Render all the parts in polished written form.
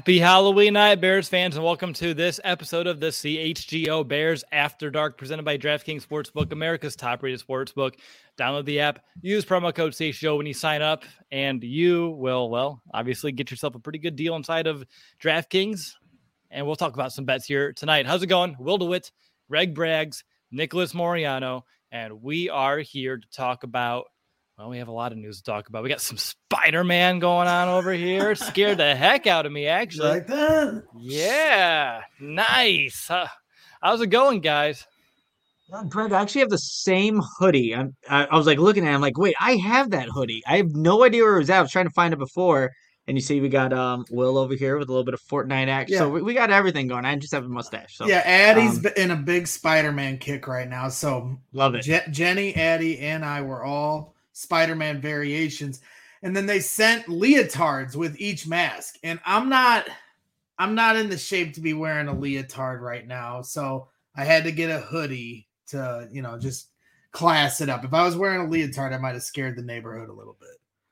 Happy Halloween night, Bears fans, and welcome to this episode of the CHGO Bears After Dark, presented by DraftKings Sportsbook, America's top-rated sportsbook. Download the app, use promo code CHGO when you sign up, and you will, well, obviously get yourself a pretty good deal inside of DraftKings. And we'll talk about some bets here tonight. How's it going? Will DeWitt, Greg Braggs, Nicholas Moriano, and we are here to talk about, well, we have a lot of news to talk about. We got some Spider-Man going on over here. Scared the heck out of me, actually. Like that? Yeah, nice. How's it going, guys? Greg, I actually have the same hoodie. I was like looking at it, I'm like, wait, I have that hoodie. I have no idea where it was at. I was trying to find it before. And you see we got Will over here with a little bit of Fortnite action. Yeah. So we got everything going. I just have a mustache. So Yeah, Addie's in a big Spider-Man kick right now. So love it. Jenny, Addie, and I were all Spider-Man variations. And then they sent leotards with each mask. And I'm not in the shape to be wearing a leotard right now. So I had to get a hoodie to, just class it up. If I was wearing a leotard, I might have scared the neighborhood a little bit.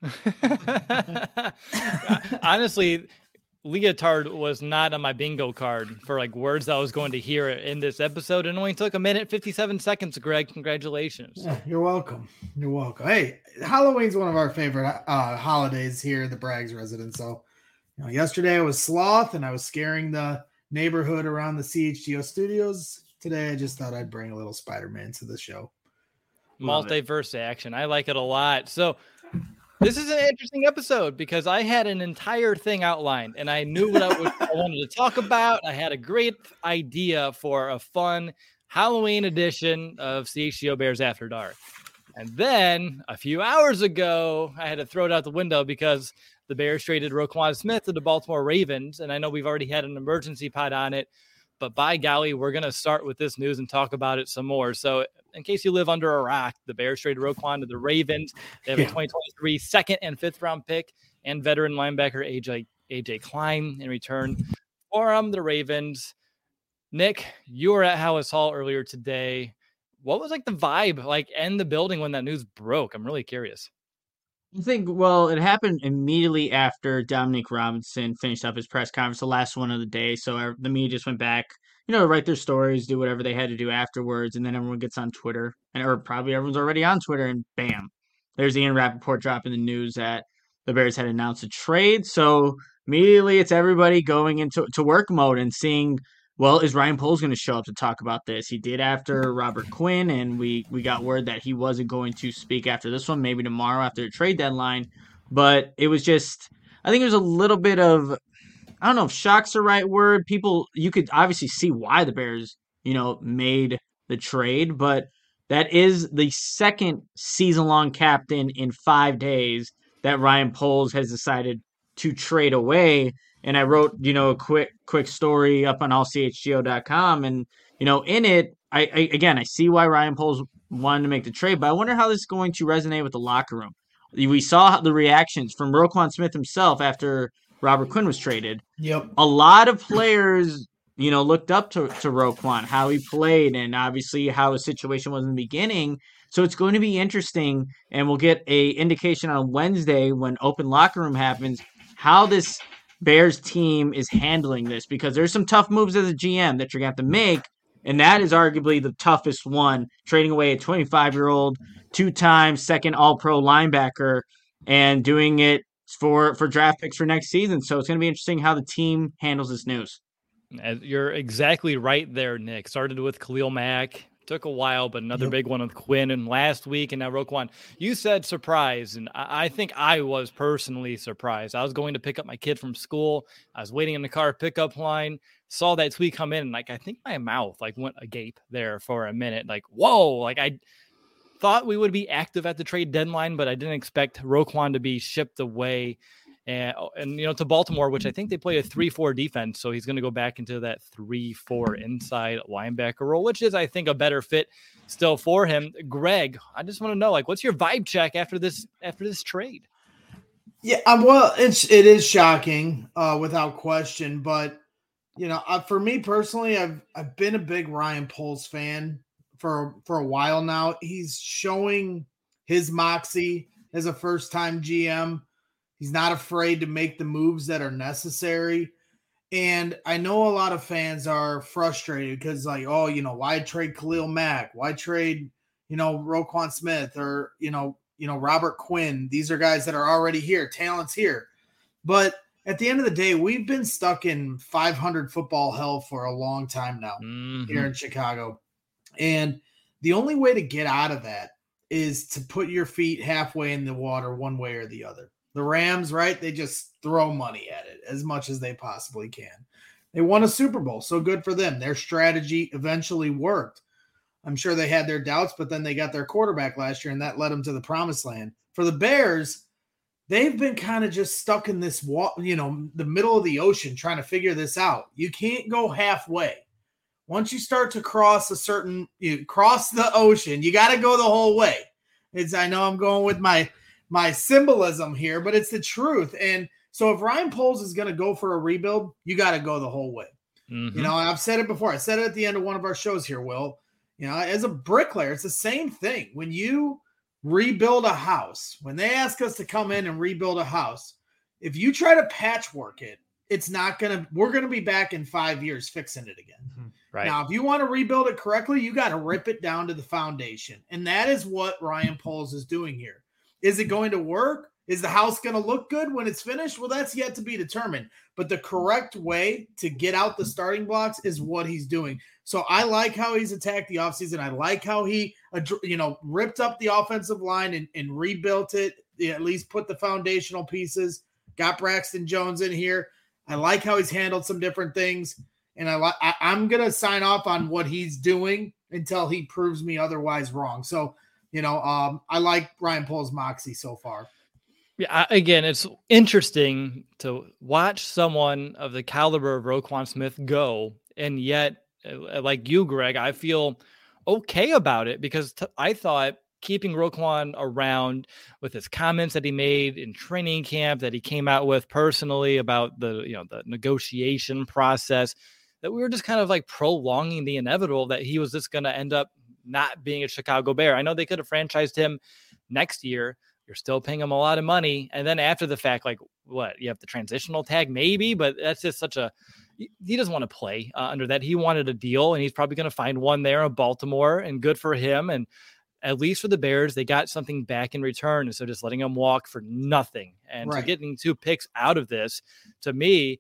Honestly, leotard was not on my bingo card for like words that I was going to hear in this episode. It only took 1:57 seconds, Greg. Congratulations. Yeah, you're welcome. You're welcome. Hey, Halloween's one of our favorite holidays here at the Braggs residence. So, yesterday I was Sloth and I was scaring the neighborhood around the CHGO studios. Today I just thought I'd bring a little Spider-Man to the show. Multiverse action. I like it a lot. So this is an interesting episode because I had an entire thing outlined and I knew what I wanted to talk about. I had a great idea for a fun Halloween edition of CHGO Bears After Dark. And then a few hours ago, I had to throw it out the window because the Bears traded Roquan Smith to the Baltimore Ravens. And I know we've already had an emergency pod on it, but by golly, we're going to start with this news and talk about it some more. So in case you live under a rock, the Bears traded Roquan to the Ravens. They have a 2023 second and fifth round pick and veteran linebacker AJ Klein in return for the Ravens. Nick, you were at Halas Hall earlier today. What was like the vibe like in the building when that news broke? I'm really curious. I think, well, it happened immediately after Dominique Robinson finished up his press conference, the last one of the day. So the media just went back, to write their stories, do whatever they had to do afterwards. And then everyone gets on Twitter, or probably everyone's already on Twitter, and bam, there's Ian Rappaport dropping the news that the Bears had announced a trade. So immediately it's everybody going into work mode and seeing, well, is Ryan Poles going to show up to talk about this? He did after Robert Quinn, and we got word that he wasn't going to speak after this one, maybe tomorrow after the trade deadline. But it was just, I think it was a little bit of, I don't know if shock's the right word. People, you could obviously see why the Bears, made the trade, but that is the second season-long captain in 5 days that Ryan Poles has decided to trade away. And I wrote, a quick story up on allchgo.com. And, in it, I see why Ryan Poles wanted to make the trade, but I wonder how this is going to resonate with the locker room. We saw the reactions from Roquan Smith himself after Robert Quinn was traded. Yep. A lot of players, looked up to Roquan, how he played, and obviously how his situation was in the beginning. So it's going to be interesting, and we'll get a indication on Wednesday when open locker room happens, how this Bears team is handling this, because there's some tough moves as a GM that you're going to have to make, and that is arguably the toughest one, trading away a 25-year-old, two-time second All-Pro linebacker, and doing it for draft picks for next season. So it's going to be interesting how the team handles this news. You're exactly right there, Nick. Started with Khalil Mack. Took a while, but another big one with Quinn and last week, and now Roquan. You said surprise, and I think I was personally surprised. I was going to pick up my kid from school. I was waiting in the car pickup line, saw that tweet come in, and I think my mouth went agape there for a minute. Whoa! I thought we would be active at the trade deadline, but I didn't expect Roquan to be shipped away and to Baltimore, which I think they play a 3-4 defense. So he's going to go back into that 3-4 inside linebacker role, which is, I think, a better fit still for him. Greg, I just want to know, what's your vibe check after this trade? Yeah, well, it is shocking, without question. But for me personally, I've been a big Ryan Poles fan for a while now. He's showing his moxie as a first-time GM. He's not afraid to make the moves that are necessary. And I know a lot of fans are frustrated because, like, oh, why trade Khalil Mack? Why trade, Roquan Smith or, Robert Quinn? These are guys that are already here. Talent's here. But at the end of the day, we've been stuck in 500 football hell for a long time now here in Chicago. And the only way to get out of that is to put your feet halfway in the water one way or the other. The Rams, right? They just throw money at it as much as they possibly can. They won a Super Bowl, so good for them. Their strategy eventually worked. I'm sure they had their doubts, but then they got their quarterback last year, and that led them to the promised land. For the Bears, they've been kind of just stuck in this, the middle of the ocean trying to figure this out. You can't go halfway. Once you start to cross the ocean, you got to go the whole way. I know I'm going with my symbolism here, but it's the truth. And so if Ryan Poles is going to go for a rebuild, you got to go the whole way. I've said it before. I said it at the end of one of our shows here, Will. As a bricklayer, it's the same thing. When you rebuild a house, when they ask us to come in and rebuild a house, if you try to patchwork it, we're going to be back in 5 years fixing it again. Right. Now, if you want to rebuild it correctly, you got to rip it down to the foundation. And that is what Ryan Poles is doing here. Is it going to work? Is the house going to look good when it's finished? Well, that's yet to be determined. But the correct way to get out the starting blocks is what he's doing. So I like how he's attacked the offseason. I like how he, ripped up the offensive line and rebuilt it, at least put the foundational pieces, got Braxton Jones in here. I like how he's handled some different things. And I'm going to sign off on what he's doing until he proves me otherwise wrong. So, I like Ryan Poles' moxie so far. Yeah, again, it's interesting to watch someone of the caliber of Roquan Smith go, and yet, like you, Greg, I feel okay about it because I thought keeping Roquan around with his comments that he made in training camp, that he came out with personally about the negotiation process, that we were just kind of like prolonging the inevitable that he was just going to end up not being a Chicago Bear. I know they could have franchised him next year. You're still paying him a lot of money. And then after the fact, like what, you have the transitional tag maybe, but that's just he doesn't want to play under that. He wanted a deal and he's probably going to find one there in Baltimore, and good for him. And at least for the Bears, they got something back in return. And so just letting him walk for nothing and so getting 2 picks out of this, to me,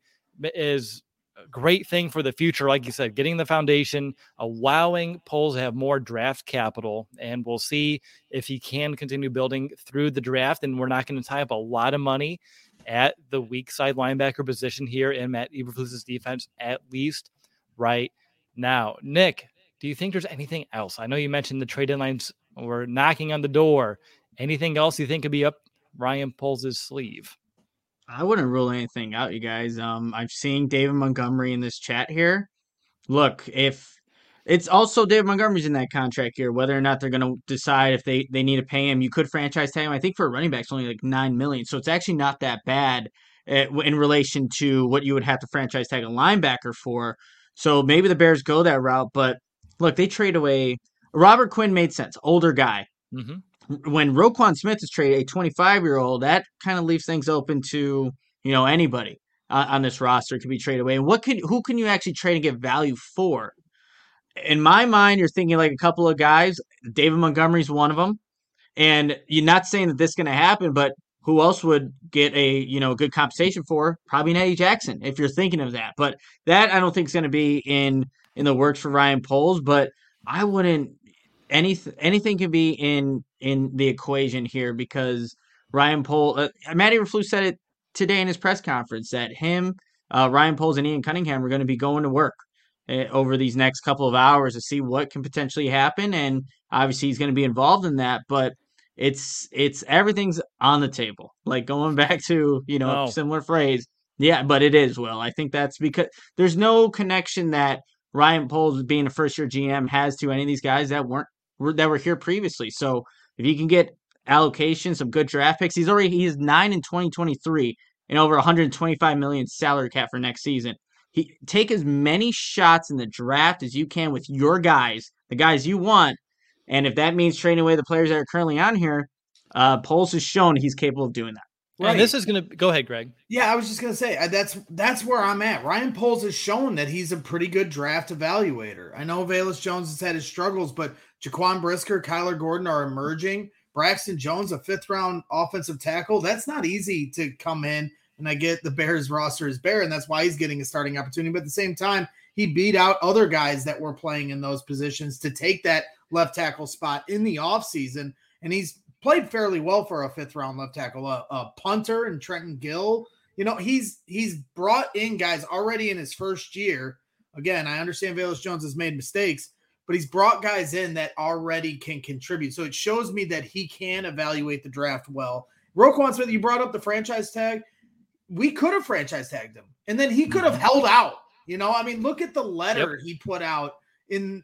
is a great thing for the future. Like you said, getting the foundation, allowing Poles to have more draft capital, and we'll see if he can continue building through the draft. And we're not going to tie up a lot of money at the weak side linebacker position here in Matt Eberflus's defense, at least right now. Nick, do you think there's anything else? I know you mentioned the trade deadlines were knocking on the door. Anything else you think could be up Ryan Poles' sleeve? I wouldn't rule anything out, you guys. I've seen David Montgomery in this chat here. Look, if it's also David Montgomery's in that contract here, whether or not they're going to decide if they need to pay him, you could franchise tag him. I think for a running back, it's only like $9 million, so it's actually not that bad in relation to what you would have to franchise tag a linebacker for. So maybe the Bears go that route. But look, they trade away. Robert Quinn made sense, older guy. Mm-hmm. When Roquan Smith is traded, a 25-year-old, that kind of leaves things open to anybody on this roster can be traded away. And who can you actually trade and get value for? In my mind, you're thinking like a couple of guys. David Montgomery's one of them, and you're not saying that this is going to happen, but who else would get a good compensation for? Probably Eddie Jackson, if you're thinking of that. But that I don't think is going to be in the works for Ryan Poles. But I wouldn't. Anything can be in the equation here because Ryan Poles, Matt Eberflus said it today in his press conference that Ryan Poles and Ian Cunningham are going to be going to work over these next couple of hours to see what can potentially happen, and obviously he's going to be involved in that. But it's everything's on the table. Like going back to similar phrase, yeah. But it is, Will. I think that's because there's no connection that Ryan Poles, being a first-year GM, has to any of these guys that were here previously. So if you can get allocation, some good draft picks, he's 9 in 2023 and over 125 million salary cap for next season. Take as many shots in the draft as you can with your guys, the guys you want, and if that means trading away the players that are currently on here, Poles has shown he's capable of doing that. Right. And this is going to go ahead, Greg. Yeah, I was just going to say that's where I'm at. Ryan Poles has shown that he's a pretty good draft evaluator. I know Velus Jones has had his struggles, but Jaquan Brisker, Kyler Gordon are emerging. Braxton Jones, a 5th-round offensive tackle. That's not easy to come in. And I get the Bears roster is bare, and that's why he's getting a starting opportunity. But at the same time, he beat out other guys that were playing in those positions to take that left tackle spot in the offseason. And he's played fairly well for a 5th-round left tackle, a punter and Trenton Gill. He's brought in guys already in his first year. Again, I understand Velus Jones has made mistakes, but he's brought guys in that already can contribute. So it shows me that he can evaluate the draft well. Roquan Smith, you brought up the franchise tag. We could have franchise tagged him, and then he could have held out. Look at the letter he put out in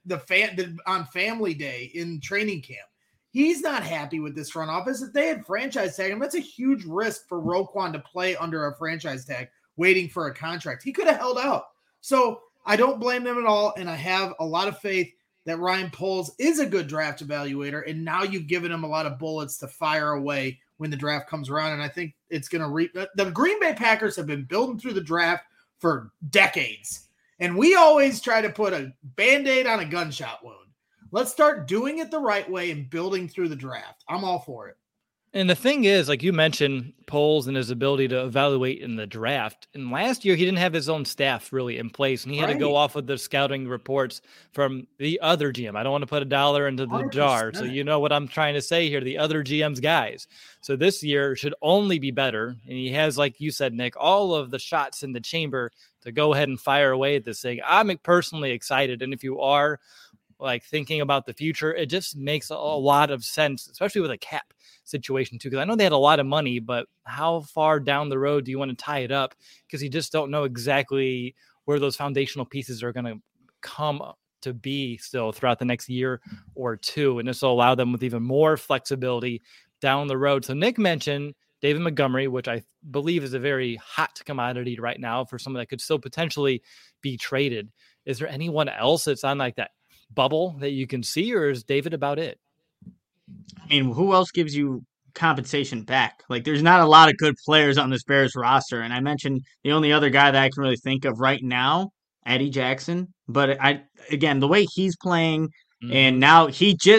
on Family Day in training camp. He's not happy with this front office. If they had franchise tag him, that's a huge risk for Roquan to play under a franchise tag, waiting for a contract. He could have held out. So I don't blame them at all, and I have a lot of faith that Ryan Poles is a good draft evaluator, and now you've given him a lot of bullets to fire away when the draft comes around, and I think it's going to the Green Bay Packers have been building through the draft for decades, and we always try to put a Band-Aid on a gunshot wound. Let's start doing it the right way and building through the draft. I'm all for it. And the thing is, like you mentioned, Poles and his ability to evaluate in the draft. And last year, he didn't have his own staff really in place, and he had to go off of the scouting reports from the other GM. I don't want to put a dollar into the 100%. Jar, so you know what I'm trying to say here, the other GM's guys. So this year should only be better, and he has, like you said, Nick, all of the shots in the chamber to go ahead and fire away at this thing. I'm personally excited, and if you are like thinking about the future, it just makes a lot of sense, especially with a cap situation too, because I know they had a lot of money, but how far down the road do you want to tie it up? Because you just don't know exactly where those foundational pieces are going to come to be still throughout the next year or two, and this will allow them with even more flexibility down the road. So Nick mentioned David Montgomery, which I believe is a very hot commodity right now for someone that could still potentially be traded. Is there anyone else that's on like that bubble that you can see, or is David about it? I mean, who else gives you compensation back? Like, there's not a lot of good players on this Bears roster. And I mentioned the only other guy that I can really think of right now, Eddie Jackson. But again, the way he's playing, and now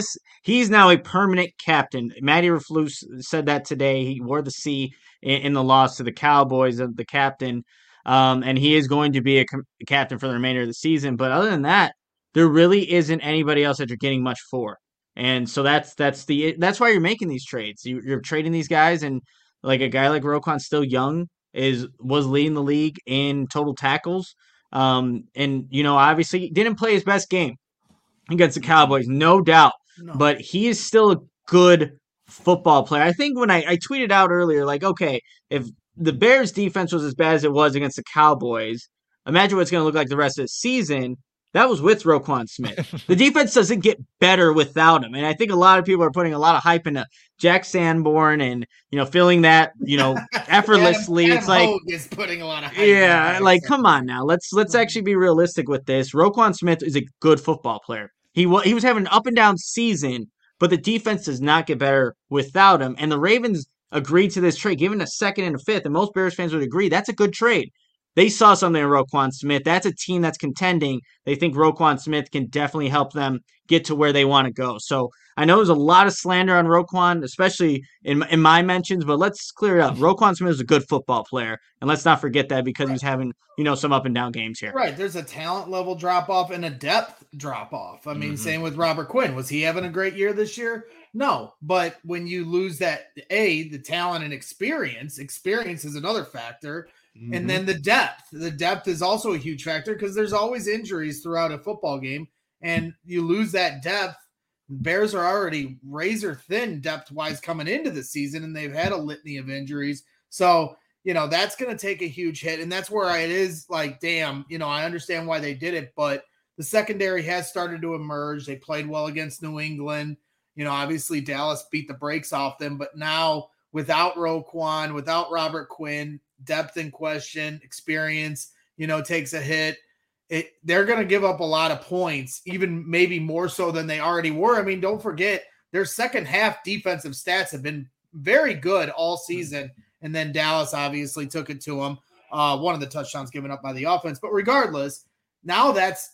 he's now a permanent captain. Matty Raflus said that today. He wore the C in the loss to the Cowboys of the captain. And he is going to be a captain for the remainder of the season. But other than that, there really isn't anybody else that you're getting much for. And so that's why you're making these trades. You're trading these guys, and like a guy like Roquan, still young, was leading the league in total tackles. And obviously didn't play his best game against the Cowboys, no doubt. No. But he is still a good football player. I think when I tweeted out earlier, like, okay, if the Bears defense was as bad as it was against the Cowboys, imagine what it's going to look like the rest of the season. That was with Roquan Smith. The defense doesn't get better without him. And I think a lot of people are putting a lot of hype into Jack Sanborn and, feeling that, effortlessly. Adam it's like Hogue is putting a lot of hype. Yeah, like, come on now. Let's actually be realistic with this. Roquan Smith is a good football player. He was having an up and down season, but the defense does not get better without him. And the Ravens agreed to this trade, given a second and a fifth, and most Bears fans would agree that's a good trade. They saw something in Roquan Smith. That's a team that's contending. They think Roquan Smith can definitely help them get to where they want to go. So I know there's a lot of slander on Roquan, especially in my mentions, but let's clear it up. Roquan Smith is a good football player, and let's not forget that because he's having, some up and down games here. Right. There's a talent level drop off and a depth drop off. I mean, same with Robert Quinn. Was he having a great year this year? No. But when you lose that, the talent and experience is another factor. And then the depth is also a huge factor because there's always injuries throughout a football game, and you lose that depth. Bears are already razor thin depth wise coming into the season, and they've had a litany of injuries. So, that's going to take a huge hit. And that's where it is like, damn, I understand why they did it, but the secondary has started to emerge. They played well against New England. Obviously Dallas beat the brakes off them, but now without Roquan, without Robert Quinn, depth in question, experience, takes a hit. They're going to give up a lot of points, even maybe more so than they already were. I mean, don't forget their second half defensive stats have been very good all season. And then Dallas obviously took it to them. One of the touchdowns given up by the offense. But regardless, now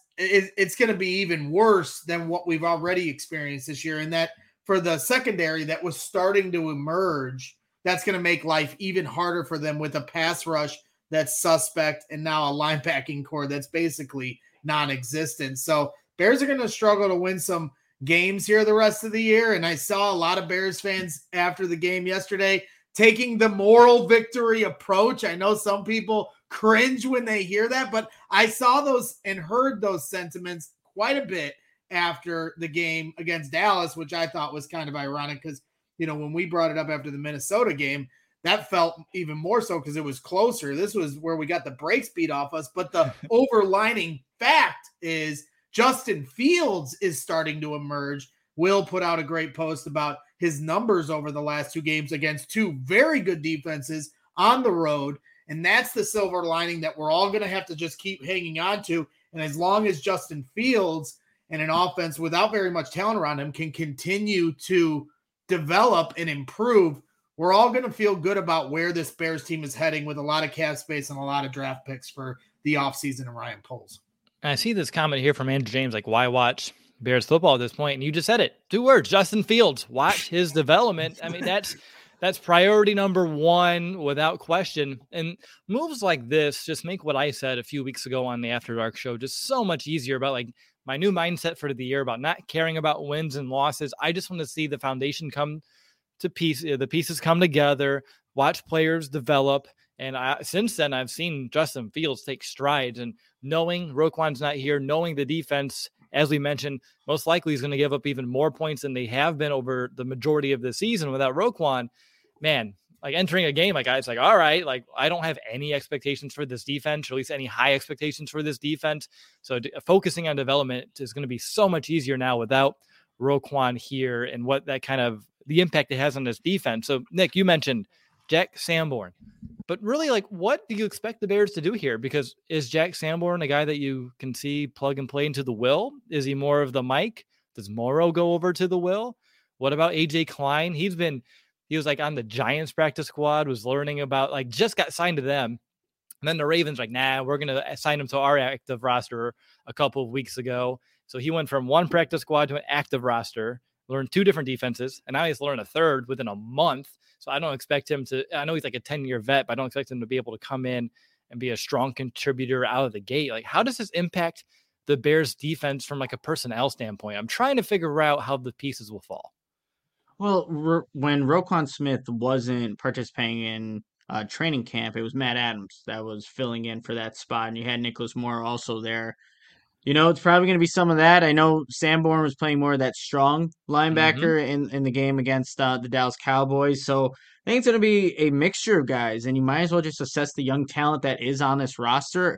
it's going to be even worse than what we've already experienced this year. And that for the secondary that was starting to emerge, that's going to make life even harder for them with a pass rush that's suspect and now a linebacking core that's basically non-existent. So Bears are going to struggle to win some games here the rest of the year. And I saw a lot of Bears fans after the game yesterday taking the moral victory approach. I know some people cringe when they hear that, but I saw those and heard those sentiments quite a bit after the game against Dallas, which I thought was kind of ironic because, when we brought it up after the Minnesota game, that felt even more so because it was closer. This was where we got the brakes beat off us. But the overlining fact is Justin Fields is starting to emerge. Will put out a great post about his numbers over the last 2 games against 2 very good defenses on the road. And that's the silver lining that we're all going to have to just keep hanging on to. And as long as Justin Fields and an offense without very much talent around him can continue to develop and improve, we're all going to feel good about where this Bears team is heading with a lot of cap space and a lot of draft picks for the offseason and Ryan Poles. I see this comment here from Andrew James, like, why watch Bears football at this point? And you just said it. 2 words, Justin Fields. Watch his development. I mean, that's priority number 1 without question. And moves like this just make what I said a few weeks ago on the After Dark show just so much easier about like my new mindset for the year about not caring about wins and losses. I just want to see the foundation come to the pieces come together, watch players develop. And since then, I've seen Justin Fields take strides, and knowing Roquan's not here, knowing the defense, as we mentioned, most likely is going to give up even more points than they have been over the majority of the season without Roquan. Man, like entering a game, like it's like, all right, like I don't have any expectations for this defense, or at least any high expectations for this defense. So focusing on development is going to be so much easier now without Roquan here, and what that kind of the impact it has on this defense. So Nick, you mentioned Jack Sanborn, but really, like, what do you expect the Bears to do here? Because is Jack Sanborn a guy that you can see plug and play into the Will? Is he more of the Mike? Does Morrow go over to the Will? What about AJ Klein? He was like on the Giants practice squad, was learning about, like, just got signed to them. And then the Ravens like, nah, we're going to assign him to our active roster a couple of weeks ago. So he went from one practice squad to an active roster, learned 2 different defenses, and now he's learned a third within a month. So I don't expect him to, I know he's like a 10-year vet, but I don't expect him to be able to come in and be a strong contributor out of the gate. Like, how does this impact the Bears defense from like a personnel standpoint? I'm trying to figure out how the pieces will fall. Well, when Roquan Smith wasn't participating in training camp, it was Matt Adams that was filling in for that spot, and you had Nicholas Moore also there. It's probably going to be some of that. I know Sanborn was playing more of that strong linebacker in the game against the Dallas Cowboys. So I think it's going to be a mixture of guys, and you might as well just assess the young talent that is on this roster.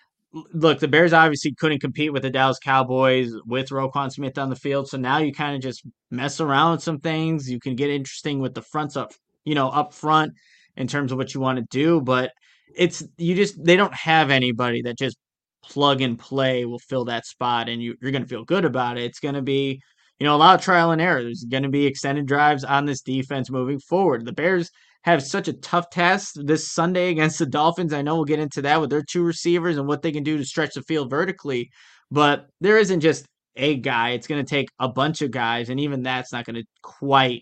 Look, the Bears obviously couldn't compete with the Dallas Cowboys with Roquan Smith on the field. So now you kind of just mess around with some things. You can get interesting with the fronts up front in terms of what you want to do. But they don't have anybody that just plug and play will fill that spot, and you're going to feel good about it. It's going to be, a lot of trial and error. There's going to be extended drives on this defense moving forward. The Bears have such a tough task this Sunday against the Dolphins. I know we'll get into that with their 2 receivers and what they can do to stretch the field vertically, but there isn't just a guy. It's going to take a bunch of guys, and even that's not going to quite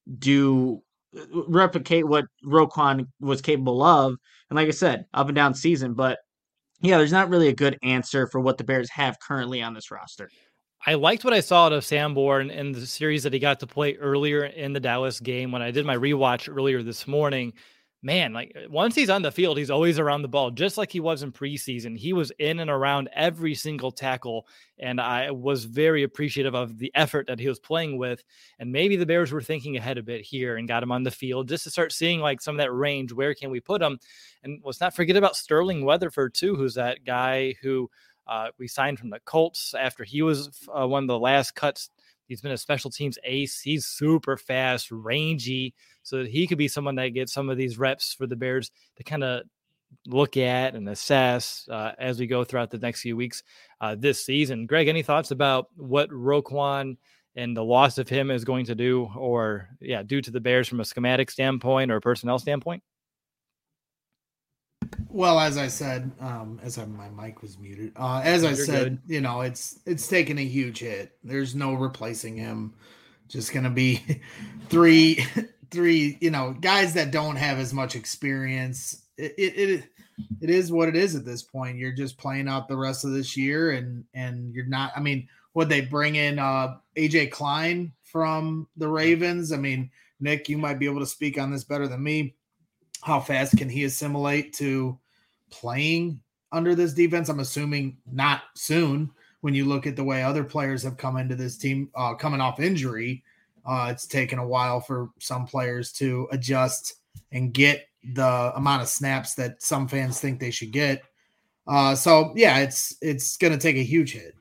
replicate what Roquan was capable of. And like I said, up and down season, but yeah, there's not really a good answer for what the Bears have currently on this roster. I liked what I saw out of Sanborn in the series that he got to play earlier in the Dallas game. When I did my rewatch earlier this morning, man, like once he's on the field, he's always around the ball, just like he was in preseason. He was in and around every single tackle, and I was very appreciative of the effort that he was playing with. And maybe the Bears were thinking ahead a bit here and got him on the field just to start seeing like some of that range. Where can we put him? And let's not forget about Sterling Weatherford too, who's that guy who we signed from the Colts after he was one of the last cuts. He's been a special teams ace. He's super fast, rangy, so that he could be someone that gets some of these reps for the Bears to kind of look at and assess as we go throughout the next few weeks this season. Greg, any thoughts about what Roquan and the loss of him is going to do, or do to the Bears from a schematic standpoint or a personnel standpoint? Well, as I said, my mic was muted. As I You're said, good. it's taken a huge hit. There's no replacing him. Just gonna be three, three, guys that don't have as much experience. It is what it is at this point. You're just playing out the rest of this year, and you're not. I mean, would they bring in AJ Klein from the Ravens? I mean, Nick, you might be able to speak on this better than me. How fast can he assimilate to playing under this defense? I'm assuming not soon. When you look at the way other players have come into this team coming off injury, it's taken a while for some players to adjust and get the amount of snaps that some fans think they should get. So yeah, it's going to take a huge hit.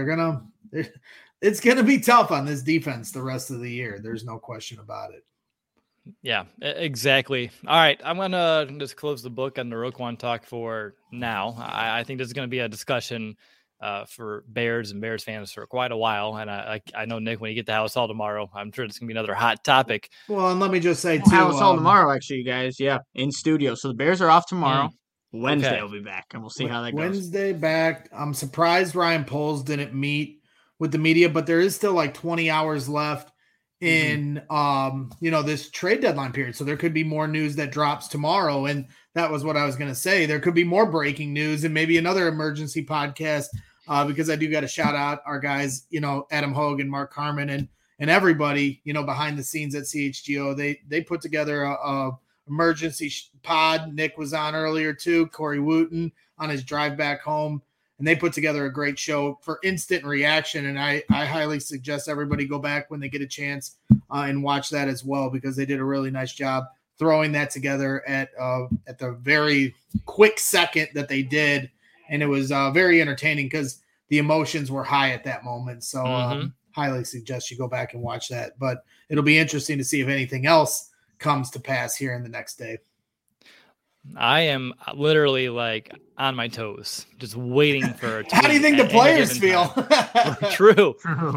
It's going to be tough on this defense the rest of the year. There's no question about it. Yeah, exactly. All right, I'm going to just close the book on the Roquan talk for now. I think this is going to be a discussion for Bears and Bears fans for quite a while. And I know, Nick, when you get to Halas Hall tomorrow, I'm sure it's going to be another hot topic. Well, and let me just say, too. Halas Hall tomorrow, actually, you guys. Yeah, in studio. So the Bears are off tomorrow. Wednesday will be back, and we'll see how that goes. Wednesday back. I'm surprised Ryan Poles didn't meet with the media, but there is still like 20 hours left in this trade deadline period, so there could be more news that drops tomorrow. And that was what I was going to say. There could be more breaking news and maybe another emergency podcast because I do got to shout out our guys, Adam Hogue and Mark Carman and everybody behind the scenes at CHGO. They put together a emergency pod. Nick was on earlier too, Corey Wooten on his drive back home. And they put together a great show for instant reaction. And I highly suggest everybody go back when they get a chance and watch that as well, because they did a really nice job throwing that together at the very quick second that they did. And it was very entertaining because the emotions were high at that moment. So highly suggest you go back and watch that. But it'll be interesting to see if anything else comes to pass here in the next day. I am literally like on my toes, just waiting for. How do you think the players feel? True.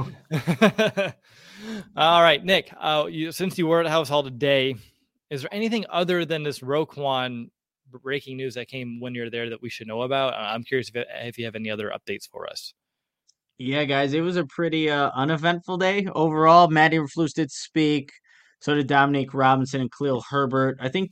All right, Nick. Since you were at Halas Hall today, is there anything other than this Roquan breaking news that came when you're there that we should know about? I'm curious if you have any other updates for us. Yeah, guys, it was a pretty uneventful day overall. Matt Eberflus did speak. So did Dominique Robinson and Khalil Herbert. I think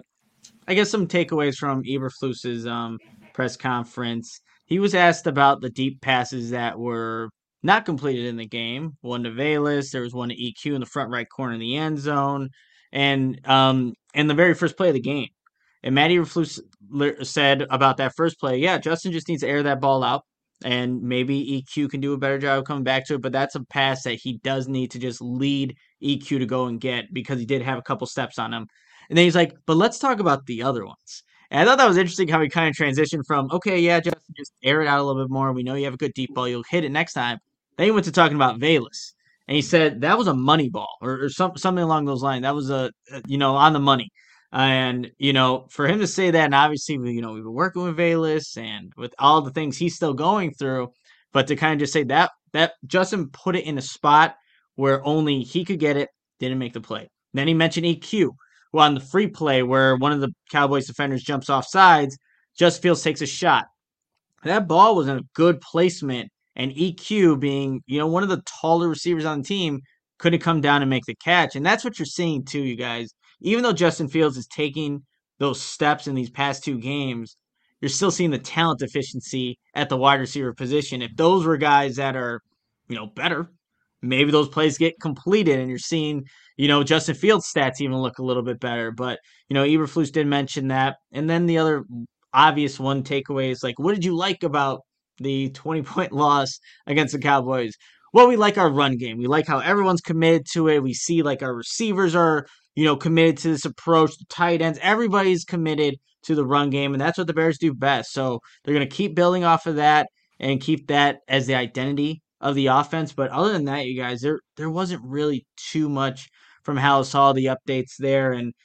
some takeaways from Eberflus's press conference. He was asked about the deep passes that were not completed in the game. One to Velus, there was one to EQ in the front right corner in the end zone, and the very first play of the game. And Matt Eberflus said about that first play, yeah, Justin just needs to air that ball out, and maybe EQ can do a better job of coming back to it, but that's a pass that he does need to just lead EQ to go and get, because he did have a couple steps on him. And then he's like, but let's talk about the other ones. And I thought that was interesting how he kind of transitioned from, okay, yeah, Justin, just air it out a little bit more. We know you have a good deep ball. You'll hit it next time. Then he went to talking about Velus. And he said that was a money ball or something along those lines. That was on the money. And, for him to say that, and obviously, we've been working with Velus and with all the things he's still going through, but to kind of just say that Justin put it in a spot where only he could get it, didn't make the play. Then he mentioned EQ. Well, on the free play where one of the Cowboys defenders jumps off sides, Justin Fields takes a shot. That ball was in a good placement, and EQ, being one of the taller receivers on the team, couldn't come down and make the catch. And that's what you're seeing too, you guys. Even though Justin Fields is taking those steps in these past two games, you're still seeing the talent deficiency at the wide receiver position. If those were guys that are, better, maybe those plays get completed and you're seeing, Justin Fields' stats even look a little bit better. But, Eberflus did mention that. And then the other obvious one takeaway is, like, what did you like about the 20-point loss against the Cowboys? Well, we like our run game. We like how everyone's committed to it. We see, like, our receivers are, committed to this approach. The tight ends, everybody's committed to the run game, and that's what the Bears do best. So they're going to keep building off of that and keep that as the identity of the offense. But other than that, you guys, there wasn't really too much from Halas Hall, the updates there, and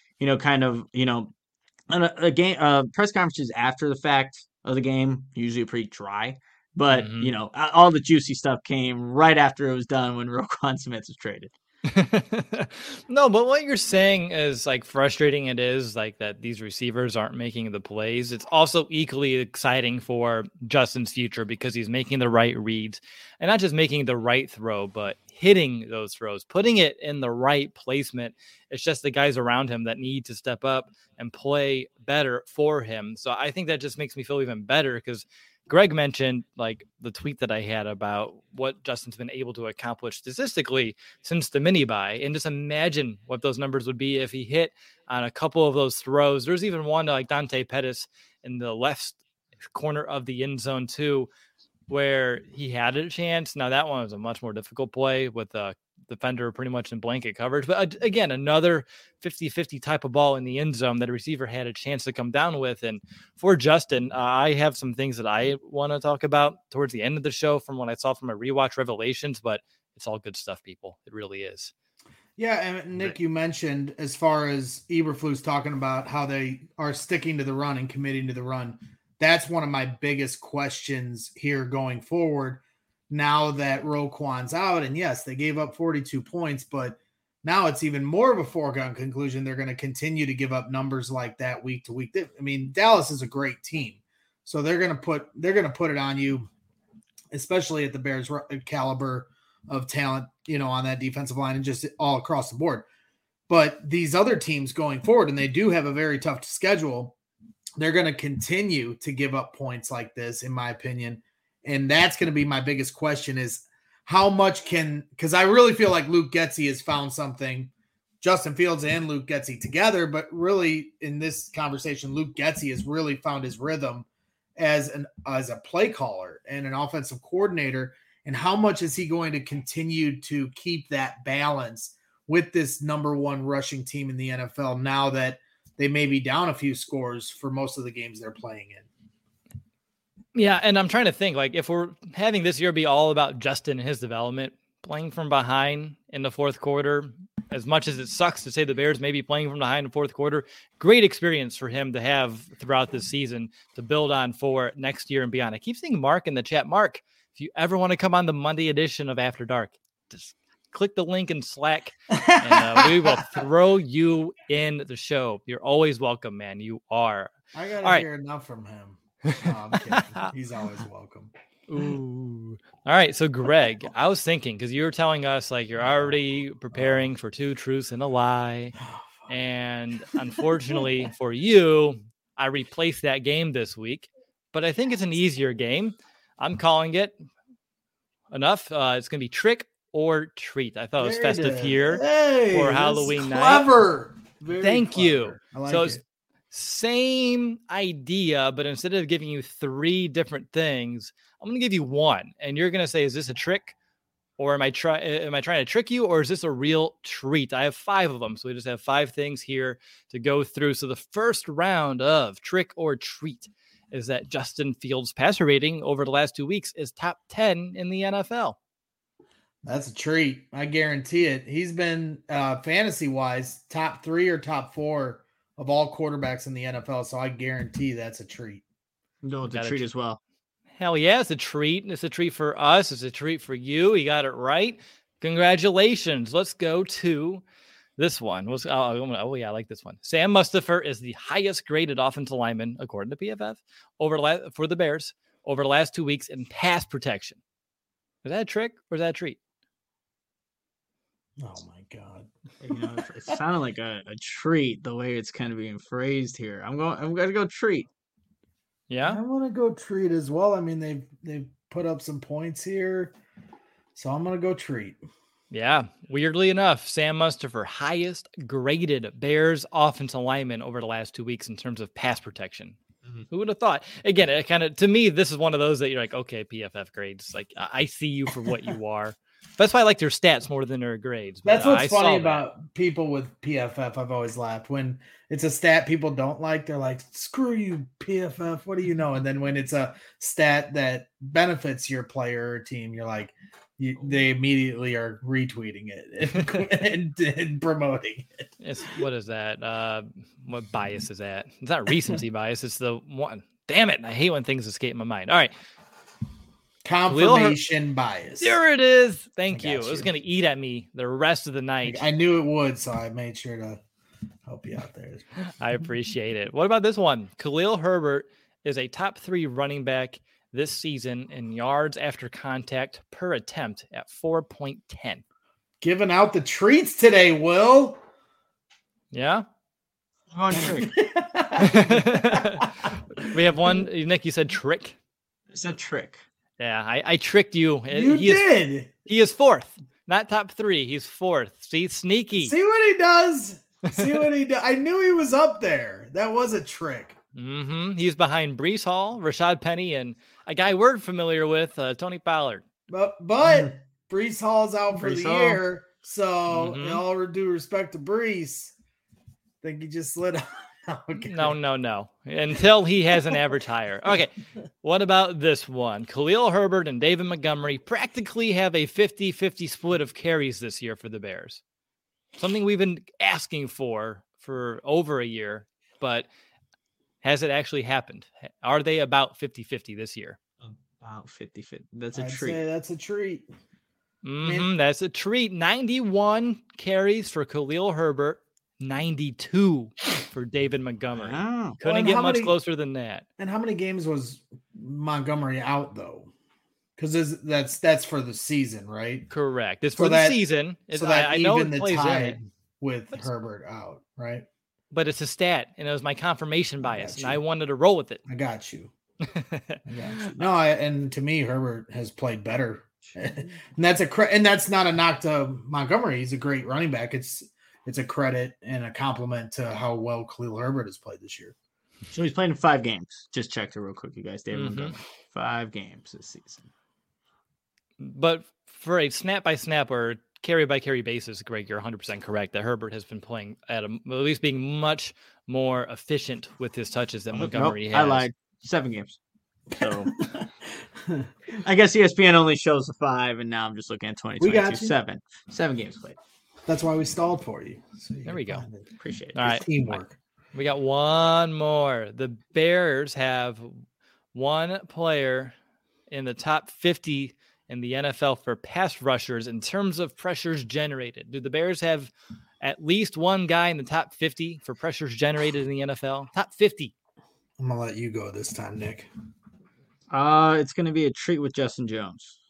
a game press conferences after the fact of the game usually pretty dry. But all the juicy stuff came right after it was done when Roquan Smith was traded. No, but what you're saying is like frustrating. It is like that these receivers aren't making the plays. It's also equally exciting for Justin's future because he's making the right reads and not just making the right throw, but hitting those throws, putting it in the right placement. It's just the guys around him that need to step up and play better for him. So I think that just makes me feel even better because Greg mentioned like the tweet that I had about what Justin's been able to accomplish statistically since the mini buy. And just imagine what those numbers would be if he hit on a couple of those throws. There's even one to like Dante Pettis in the left corner of the end zone too, where he had a chance. Now that one was a much more difficult play with a defender pretty much in blanket coverage. But again, another 50-50 type of ball in the end zone that a receiver had a chance to come down with. And for Justin, I have some things that I want to talk about towards the end of the show from what I saw from my rewatch revelations, but it's all good stuff, people. It really is. Yeah, and Nick, you mentioned as far as Eberflus talking about how they are sticking to the run and committing to the run. That's one of my biggest questions here going forward. Now that Roquan's out, and yes, they gave up 42 points, but now it's even more of a foregone conclusion they're going to continue to give up numbers like that week to week. I mean, Dallas is a great team, so they're going to put it on you, especially at the Bears' caliber of talent, on that defensive line and just all across the board. But these other teams going forward, and they do have a very tough schedule, they're going to continue to give up points like this, in my opinion. And that's going to be my biggest question is how much because I really feel like Luke Getsy has found something, Justin Fields and Luke Getsy together, but really in this conversation, Luke Getsy has really found his rhythm as a play caller and an offensive coordinator. And how much is he going to continue to keep that balance with this number one rushing team in the NFL now that they may be down a few scores for most of the games they're playing in? Yeah, and I'm trying to think, like, if we're having this year be all about Justin and his development, playing from behind in the fourth quarter, as much as it sucks to say the Bears may be playing from behind in the fourth quarter, great experience for him to have throughout this season to build on for next year and beyond. I keep seeing Mark in the chat. Mark, if you ever want to come on the Monday edition of After Dark, just click the link in Slack, and we will throw you in the show. You're always welcome, man. You are. I got to hear enough from him. No, I'm kidding. He's always welcome. Ooh. All right. So, Greg, I was thinking, because you were telling us like you're already preparing for two truths and a lie. And unfortunately for you, I replaced that game this week. But I think it's an easier game. I'm calling it enough. It's going to be trick or treat. I thought it was festive here for Halloween night. Clever. Thank you. I like so it. Same idea, but instead of giving you three different things, I'm going to give you one, and you're going to say, "Is this a trick, or am I trying to trick you, or is this a real treat?" I have 5 of them, so we just have 5 things here to go through. So the first round of trick or treat is that Justin Fields' passer rating over the last 2 weeks is top 10 in the NFL. That's a treat. I guarantee it. He's been fantasy-wise top 3 or top 4 of all quarterbacks in the NFL, so I guarantee that's a treat. No, it's a treat as well. Hell yeah, it's a treat. It's a treat for us. It's a treat for you. You got it right. Congratulations. Let's go to this one. Oh yeah, I like this one. Sam Mustipher is the highest graded offensive lineman, according to PFF, for the Bears over the last 2 weeks in pass protection. Is that a trick or is that a treat? Oh my God. It sounded like a treat the way it's kind of being phrased here. I'm going to go treat. Yeah. I want to go treat as well. I mean, they've put up some points here. So I'm going to go treat. Yeah. Weirdly enough, Sam Mustipher, highest graded Bears offensive lineman over the last 2 weeks in terms of pass protection. Mm-hmm. Who would have thought? Again, it kind of, to me, this is one of those that you're like, okay, PFF grades. Like, I see you for what you are. That's why I like their stats more than their grades. That's what's funny about people with PFF. I've always laughed when it's a stat people don't like. They're like, "Screw you, PFF. What do you know?" And then when it's a stat that benefits your player or team, you're like, they immediately are retweeting it and promoting it. What is that? What bias is that? It's not recency bias. It's the one. Damn it! I hate when things escape my mind. All right. Confirmation bias. There it is. Thank you. It was going to eat at me the rest of the night. I knew it would, so I made sure to help you out there. I appreciate it. What about this one? Khalil Herbert is a top 3 running back this season in yards after contact per attempt at 4.10. Giving out the treats today, Will. Yeah. On trick. We have one. Nick, you said trick. It's a trick. Yeah, I tricked you. You did. He is 4th, not top 3. He's 4th. See, sneaky. See what he does. See what he does. I knew he was up there. That was a trick. Mm-hmm. He's behind Breece Hall, Rashad Penny, and a guy we're familiar with, Tony Pollard. But Breece Hall's out for the year, so in all due respect to Breece, I think he just slid out. Okay. No. Until he has an average higher. Okay. What about this one? Khalil Herbert and David Montgomery practically have a 50-50 split of carries this year for the Bears. Something we've been asking for over a year, but has it actually happened? Are they about 50-50 this year? About 50-50. That's a I'd treat. say that's a treat. That's a treat. 91 carries for Khalil Herbert, 92 for David Montgomery. Oh. Couldn't get much closer than that. And how many games was Montgomery out though? Because that's for the season, right? Correct. It's for the season. So that I know it plays tide with Herbert out, right? But it's a stat, and it was my confirmation bias, and I wanted to roll with it. I got you. No, and to me, Herbert has played better, and that's not a knock to Montgomery. He's a great running back. It's a credit and a compliment to how well Khalil Herbert has played this year. So he's played in 5 games. Just checked it real quick, you guys. David Montgomery, 5 games this season. But for a snap-by-snap or carry-by-carry basis, Greg, you're 100% correct that Herbert has been playing at least being much more efficient with his touches than Montgomery has. I lied. 7 games. So I guess ESPN only shows the 5, and now I'm just looking at 2022. 7 games played. That's why we stalled for you. So there we go. Appreciate it. All right. Teamwork. We got one more. The Bears have one player in the top 50 in the NFL for pass rushers in terms of pressures generated. Do the Bears have at least one guy in the top 50 for pressures generated in the NFL? Top 50. I'm going to let you go this time, Nick. It's going to be a treat with Justin Jones.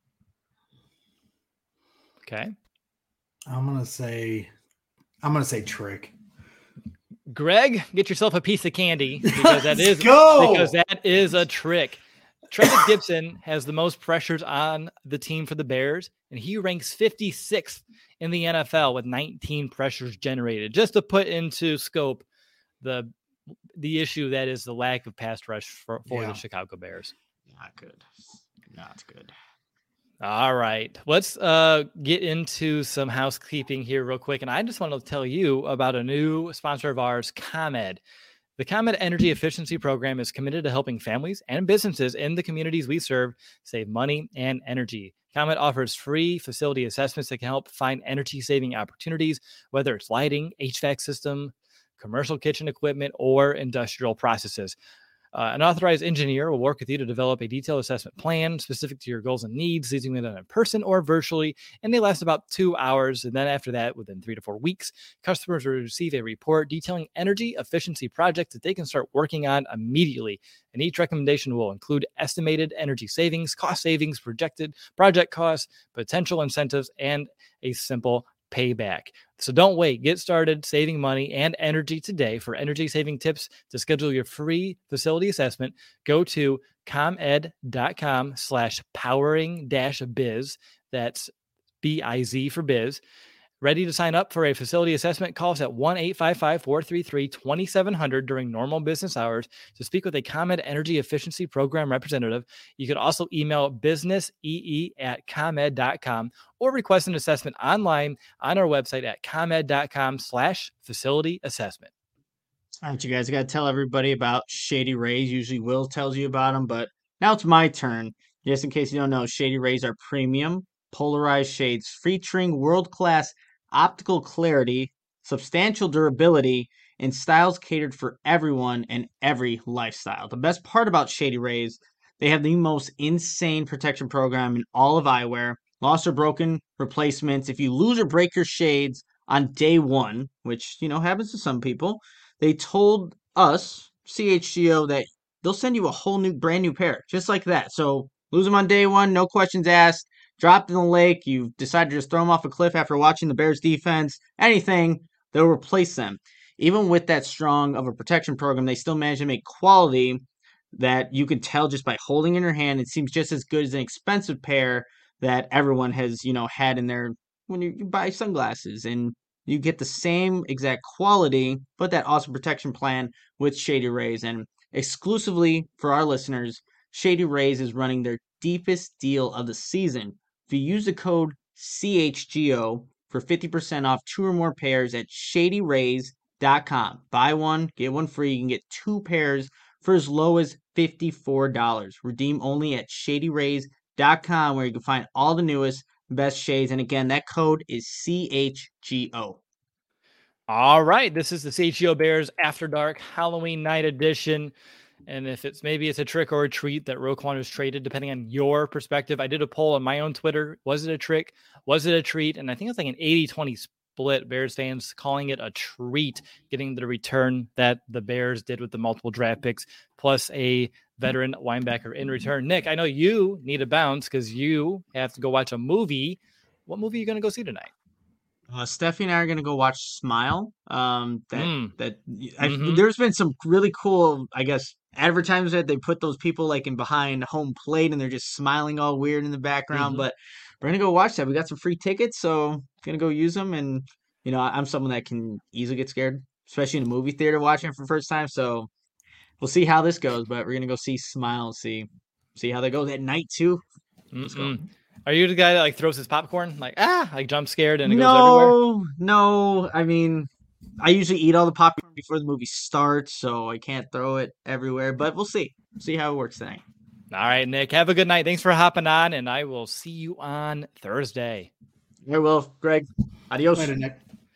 Okay. I'm going to say trick. Greg, get yourself a piece of candy because that is a trick. Travis Gibson has the most pressures on the team for the Bears, and he ranks 56th in the NFL with 19 pressures generated. Just to put into scope the issue that is the lack of pass rush for the Chicago Bears. Not good. All right. Let's get into some housekeeping here real quick. And I just want to tell you about a new sponsor of ours, ComEd. The ComEd Energy Efficiency Program is committed to helping families and businesses in the communities we serve save money and energy. ComEd offers free facility assessments that can help find energy-saving opportunities, whether it's lighting, HVAC system, commercial kitchen equipment, or industrial processes. An authorized engineer will work with you to develop a detailed assessment plan specific to your goals and needs. These can be done in person or virtually, and they last about 2 hours. And then after that, within 3 to 4 weeks, customers will receive a report detailing energy efficiency projects that they can start working on immediately. And each recommendation will include estimated energy savings, cost savings, projected project costs, potential incentives, and a simple payback. So don't wait. Get started saving money and energy today. For energy saving tips to schedule your free facility assessment, go to comed.com/powering-biz. That's BIZ for biz. Ready to sign up for a facility assessment? Call us at 1-855-433-2700 during normal business hours to speak with a ComEd Energy Efficiency Program representative. You can also email businessee@comed.com or request an assessment online on our website at comed.com/facility assessment. All right, you guys, I got to tell everybody about Shady Rays. Usually Will tells you about them, but now it's my turn. Just in case you don't know, Shady Rays are premium polarized shades featuring world-class optical clarity, substantial durability, and styles catered for everyone and every lifestyle. The best part about Shady Rays, They have the most insane protection program in all of eyewear. Lost or broken replacements. If you lose or break your shades on day one, which, happens to some people, they told us, CHGO, that they'll send you a whole brand new pair, just like that. So lose them on day one, no questions asked, dropped in the lake, you decide to just throw them off a cliff after watching the Bears defense, anything, they'll replace them. Even with that strong of a protection program, they still manage to make quality that you can tell just by holding in your hand. It seems just as good as an expensive pair that everyone has, had in there when you buy sunglasses. And you get the same exact quality, but that awesome protection plan with Shady Rays. And exclusively for our listeners, Shady Rays is running their deepest deal of the season. If you use the code CHGO for 50% off 2 or more pairs at shadyrays.com. Buy one, get one free. You can get 2 pairs for as low as $54. Redeem only at shadyrays.com, where you can find all the newest, best shades. And again, that code is CHGO. All right. This is the CHGO Bears After Dark Halloween Night Edition. And if maybe it's a trick or a treat that Roquan was traded, depending on your perspective. I did a poll on my own Twitter. Was it a trick? Was it a treat? And I think it's like an 80-20 split. Bears fans calling it a treat, getting the return that the Bears did with the multiple draft picks, plus a veteran linebacker in return. Nick, I know you need a bounce because you have to go watch a movie. What movie are you going to go see tonight? Steffi and I are going to go watch Smile. There's been some really cool, I guess, advertisements that they put those people like in behind home plate and they're just smiling all weird in the background. But we're going to go watch that. We got some free tickets, so going to go use them. And, I'm someone that can easily get scared, especially in a movie theater watching it for the first time. So we'll see how this goes, but we're going to go see Smile, see how that goes at night too. Let's go. Are you the guy that like throws his popcorn, like jump scared and it goes everywhere? No. I mean, I usually eat all the popcorn before the movie starts, so I can't throw it everywhere. But we'll see how it works tonight. All right, Nick. Have a good night. Thanks for hopping on, and I will see you on Thursday. I will, Greg. Adios. Later, Nick.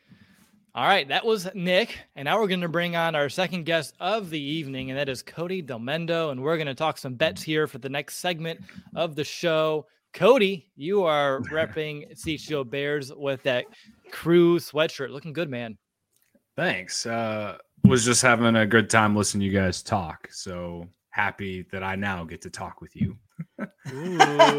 All right, that was Nick, and now we're going to bring on our second guest of the evening, and that is Cody Delmendo, and we're going to talk some bets here for the next segment of the show. Cody, you are repping CHGO Bears with that crew sweatshirt. Looking good, man. Thanks. Was just having a good time listening to you guys talk. So happy that I now get to talk with you. Ooh,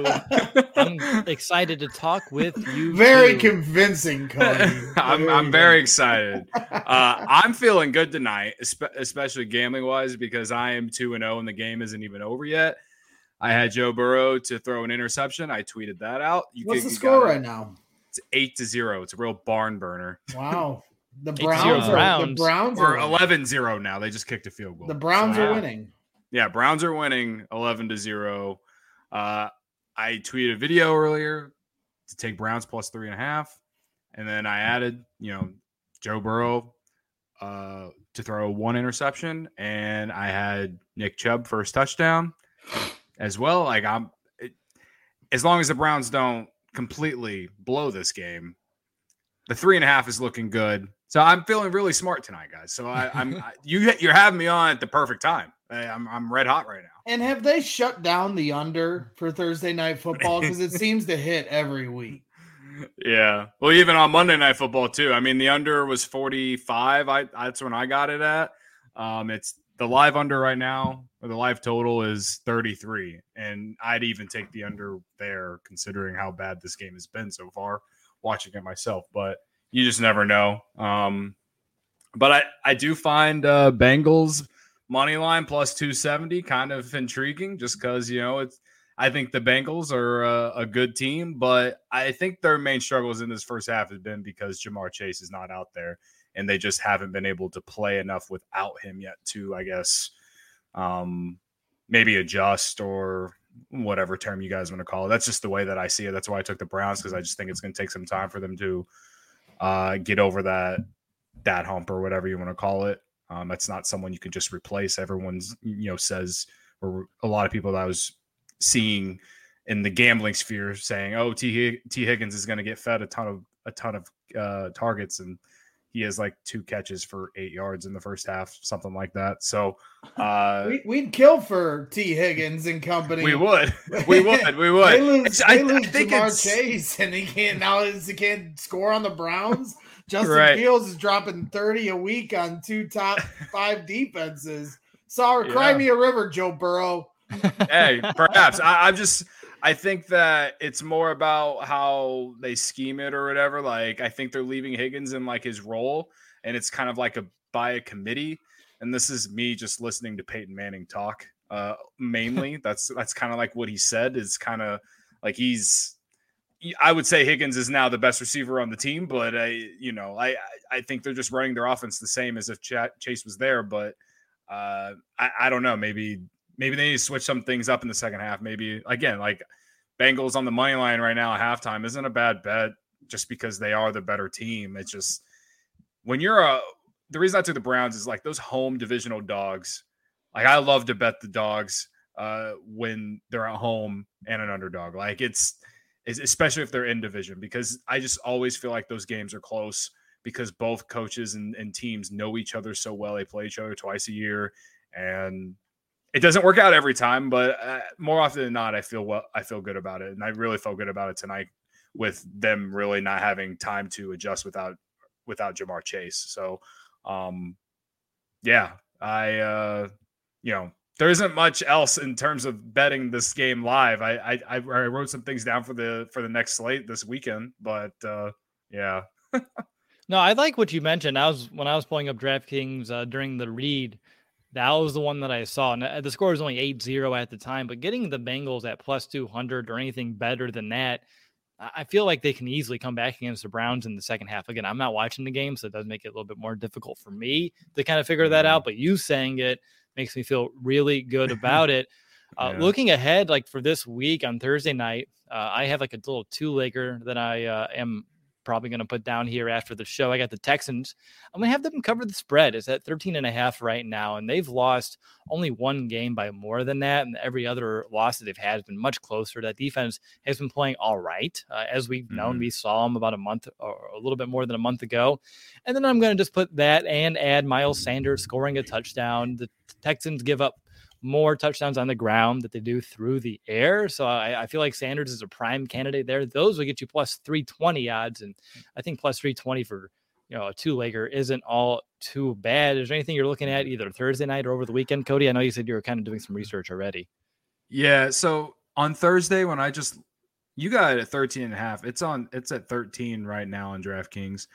I'm excited to talk with you. Very convincing, Cody. I'm very excited. I'm feeling good tonight, especially gambling wise, because I am 2-0 and the game isn't even over yet. I had Joe Burrow to throw an interception. I tweeted that out. What's the score right now? It's 8-0. It's a real barn burner. Wow. The Browns are 11-0 now. They just kicked a field goal. The Browns are winning. Yeah, Browns are winning 11-0. I tweeted a video earlier to take Browns plus 3.5. And then I added, Joe Burrow to throw 1 interception. And I had Nick Chubb first touchdown as well. Like as long as the Browns don't completely blow this game, the 3.5 is looking good. So I'm feeling really smart tonight, guys. So you're having me on at the perfect time. I'm red hot right now. And have they shut down the under for Thursday Night Football? Because it seems to hit every week. Yeah. Well, even on Monday Night Football too. I mean, the under was 45. That's when I got it at. It's the live under right now, or the live total is 33. And I'd even take the under there, considering how bad this game has been so far, watching it myself. But you just never know. But I do find Bengals money line plus 270 kind of intriguing, just because I think the Bengals are a good team, but I think their main struggles in this first half has been because Jamar Chase is not out there, and they just haven't been able to play enough without him yet to, I guess, maybe adjust or whatever term you guys want to call it. That's just the way that I see it. That's why I took the Browns, because I just think it's going to take some time for them to get over that hump or whatever you want to call it. That's not someone you can just replace. Everyone's, says, or a lot of people that I was seeing in the gambling sphere saying, "Oh, T. Higgins is going to get fed a ton of targets," and he has like 2 catches for 8 yards in the first half, something like that. So we'd kill for T. Higgins and company. We would. We lose Ja'Marr Chase, and he can't score on the Browns. Justin Fields is dropping 30 a week on 2 top 5 defenses. Sorry, cry me a river, Joe Burrow. Hey, perhaps. I think that it's more about how they scheme it or whatever. Like, I think they're leaving Higgins in like his role, and it's kind of like by a committee. And this is me just listening to Peyton Manning talk. Mainly, that's kind of like what he said. Is kind of like I would say Higgins is now the best receiver on the team, but I think they're just running their offense the same as if Chase was there. But I don't know. Maybe they need to switch some things up in the second half. Maybe, again, like Bengals on the money line right now at halftime isn't a bad bet just because they are the better team. It's just when the reason I took the Browns is like those home divisional dogs. Like, I love to bet the dogs when they're at home and an underdog. Like, it's especially if they're in division, because I just always feel like those games are close because both coaches and teams know each other so well. They play each other twice a year, and it doesn't work out every time, but more often than not, I feel good about it. And I really felt good about it tonight with them really not having time to adjust without Ja'Marr Chase. So, there isn't much else in terms of betting this game live. I wrote some things down for the next slate this weekend, but yeah. No, I like what you mentioned. When I was pulling up DraftKings during the read, that was the one that I saw. And the score was only 8-0 at the time, but getting the Bengals at plus 200 or anything better than that, I feel like they can easily come back against the Browns in the second half. Again, I'm not watching the game, so it does make it a little bit more difficult for me to kind of figure that out. But you saying it makes me feel really good about it. Looking ahead, like for this week on Thursday night, I have like a little 2-legger that I am probably going to put down here after the show. I got the Texans. I'm going to have them cover the spread. It's at 13.5 right now, and they've lost only one game by more than that, and every other loss that they've had has been much closer. That defense has been playing all right. As we've known, we saw them about a month or a little bit more than a month ago. And then I'm going to just put that and add Miles Sanders scoring a touchdown. The Texans give up more touchdowns on the ground that they do through the air. So I feel like Sanders is a prime candidate there. Those will get you plus 320 odds. And I think plus 320 for, a 2-legger isn't all too bad. Is there anything you're looking at either Thursday night or over the weekend, Cody? I know you said you were kind of doing some research already. Yeah. So on Thursday, when you got it at 13.5, it's at 13 right now on DraftKings.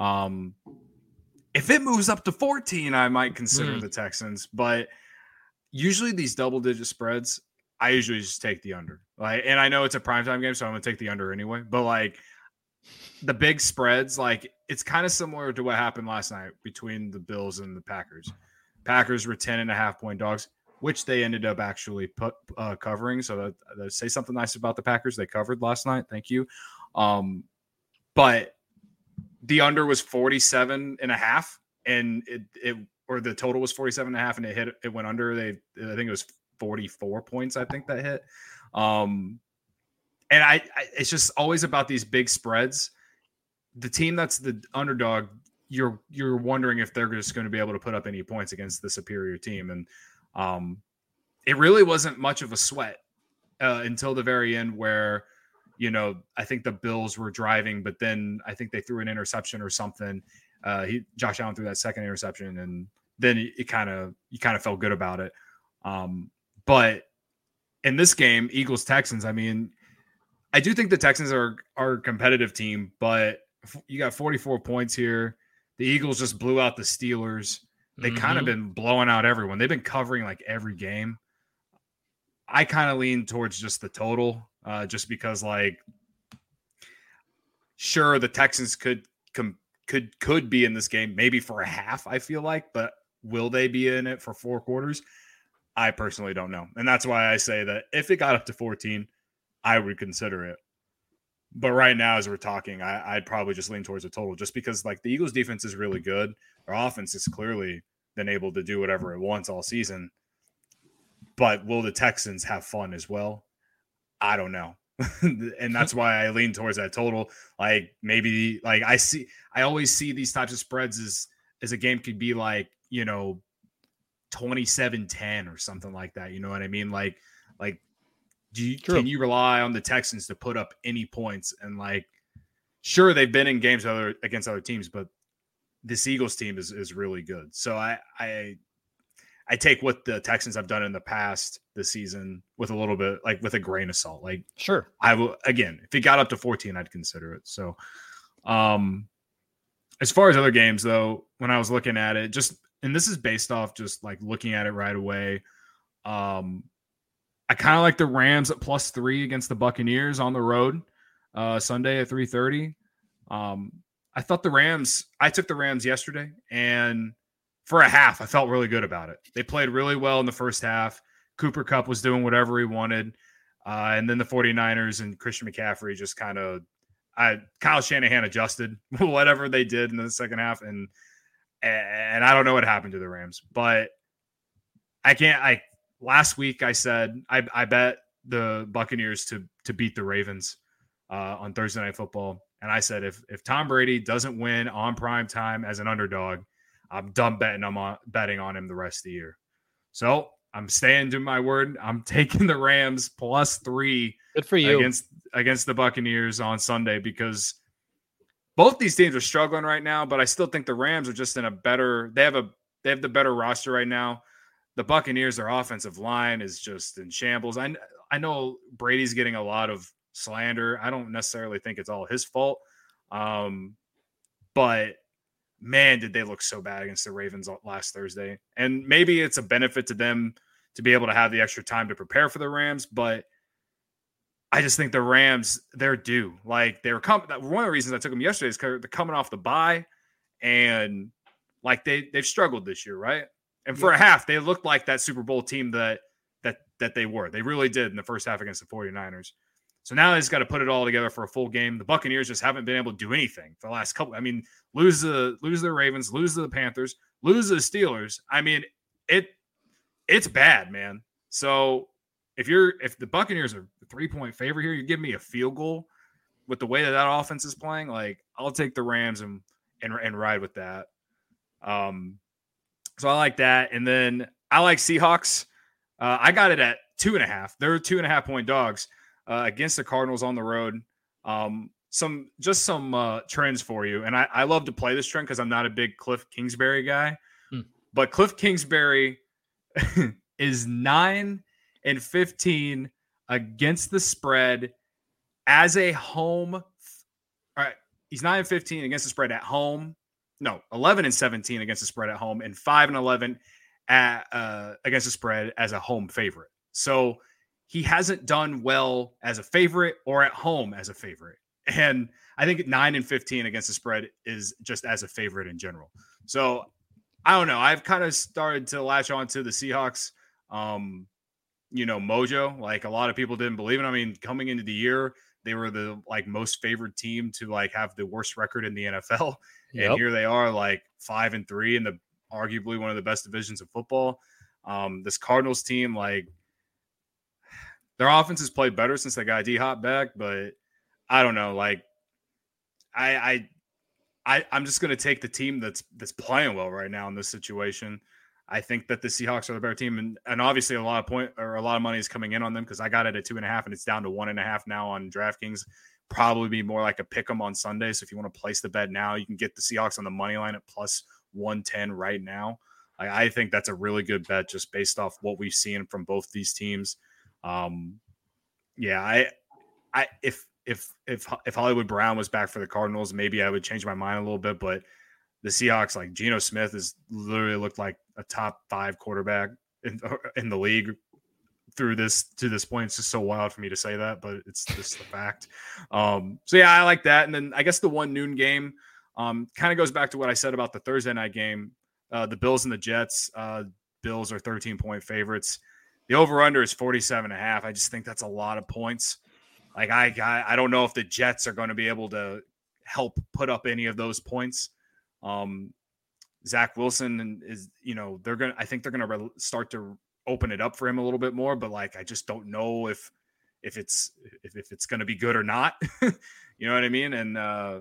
If it moves up to 14, I might consider the Texans, but usually these double-digit spreads, I usually just take the under. Like, and I know it's a primetime game, so I'm going to take the under anyway. But like the big spreads, like it's kind of similar to what happened last night between the Bills and the Packers. Packers were 10.5-point dogs, which they ended up actually covering. So that say something nice about the Packers. They covered last night. Thank you. But the under was 47.5, and or the total was 47.5, and it went under. I think it was 44 points. I think that hit. And it's just always about these big spreads. The team that's the underdog, you're wondering if they're just going to be able to put up any points against the superior team. And it really wasn't much of a sweat until the very end where, I think the Bills were driving, but then I think they threw an interception or something. Josh Allen threw that second interception, and then you kind of felt good about it. But in this game, Eagles-Texans, I mean, I do think the Texans are a competitive team, but you got 44 points here. The Eagles just blew out the Steelers. They kind of been blowing out everyone. They've been covering like every game. I kind of lean towards just the total, just because like, sure, the Texans could be in this game maybe for a half, I feel like, but will they be in it for 4 quarters? I personally don't know. And that's why I say that if it got up to 14, I would consider it. But right now, as we're talking, I'd probably just lean towards the total, just because like the Eagles defense is really good. Their offense has clearly been able to do whatever it wants all season. But will the Texans have fun as well? I don't know. and that's why I lean towards that total. Like maybe like I always see these types of spreads as a game could be like, 27-10 or something like that. You know what I mean? Like can you rely on the Texans to put up any points? And like, sure, they've been in games against other teams, but this Eagles team is really good. So I take what the Texans have done in the past this season with a little bit, like with a grain of salt. Like, sure, I will, again, if it got up to 14, I'd consider it. So, as far as other games though, when I was looking at it, and this is based off just like looking at it right away. I kind of like the Rams at +3 against the Buccaneers on the road, Sunday at 3:30. I thought I took the Rams yesterday, and for a half, I felt really good about it. They played really well in the first half. Cooper Kupp was doing whatever he wanted. And then the 49ers and Christian McCaffrey just Kyle Shanahan adjusted whatever they did in the second half. And I don't know what happened to the Rams, but last week I said, I bet the Buccaneers to beat the Ravens on Thursday Night Football. And I said, if Tom Brady doesn't win on prime time as an underdog, I'm done betting on him the rest of the year. So I'm staying to my word. I'm taking the Rams +3. Good for you against the Buccaneers on Sunday, because both these teams are struggling right now. But I still think the Rams are just in a better. They have the better roster right now. The Buccaneers, their offensive line is just in shambles. I know Brady's getting a lot of slander. I don't necessarily think it's all his fault. But man, did they look so bad against the Ravens last Thursday. And maybe it's a benefit to them to be able to have the extra time to prepare for the Rams. But I just think the Rams, they're due. Like, one of the reasons I took them yesterday is because they're coming off the bye, and like they've struggled this year, right? And for a half, they looked like that Super Bowl team that they were. They really did in the first half against the 49ers. So now they just got to put it all together for a full game. The Buccaneers just haven't been able to do anything for the last couple. I mean, lose the Ravens, lose to the Panthers, lose to the Steelers. I mean, it's bad, man. So if the Buccaneers are a 3-point favorite here, you give me a field goal with the way that offense is playing. Like, I'll take the Rams and ride with that. So I like that, and then I like Seahawks. I got it at 2.5. They're 2.5-point dogs. Against the Cardinals on the road. Some trends for you. And I love to play this trend because I'm not a big Cliff Kingsbury guy. But Cliff Kingsbury is 9-15 against the spread as a home. All right. He's 9-15 against the spread at home. No, 11-17 against the spread at home, and 5-11 against the spread as a home favorite. So he hasn't done well as a favorite or at home as a favorite. And I think 9-15 against the spread is just as a favorite in general. So I don't know. I've kind of started to latch on to the Seahawks, mojo. Like, a lot of people didn't believe it. I mean, coming into the year, they were the most favored team to have the worst record in the NFL. Yep. And here they are 5-3 in the arguably one of the best divisions of football. This Cardinals team, their offense has played better since they got D-Hop back, but I don't know. I'm just going to take the team that's playing well right now in this situation. I think that the Seahawks are the better team, and obviously a lot of money is coming in on them because I got it at 2.5 and it's down to 1.5 now on DraftKings. Probably be more like a pick 'em on Sunday. So if you want to place the bet now, you can get the Seahawks on the money line at +110 right now. I think that's a really good bet just based off what we've seen from both these teams. If Hollywood Brown was back for the Cardinals, maybe I would change my mind a little bit, but the Seahawks, Geno Smith has literally looked like a top 5 quarterback in the league to this point. It's just so wild for me to say that, but it's just the fact. So yeah, I like that. And then I guess the 1 noon game kind of goes back to what I said about the Thursday night game. The Bills and the Jets. Bills are 13-point favorites. The over-under is 47.5. I just think that's a lot of points. I don't know if the Jets are going to be able to help put up any of those points. Zach Wilson is, I think they're going to start to open it up for him a little bit more, but I just don't know if if it's going to be good or not. You know what I mean? And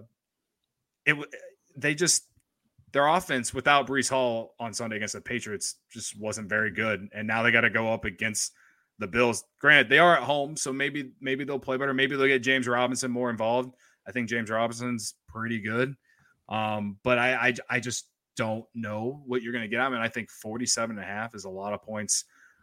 their offense without Breece Hall on Sunday against the Patriots just wasn't very good. And now they got to go up against the Bills. Granted, they are at home, so maybe they'll play better. Maybe they'll get James Robinson more involved. I think James Robinson's pretty good. But I just don't know what you're going to get. I mean, I think 47.5 is a lot of points.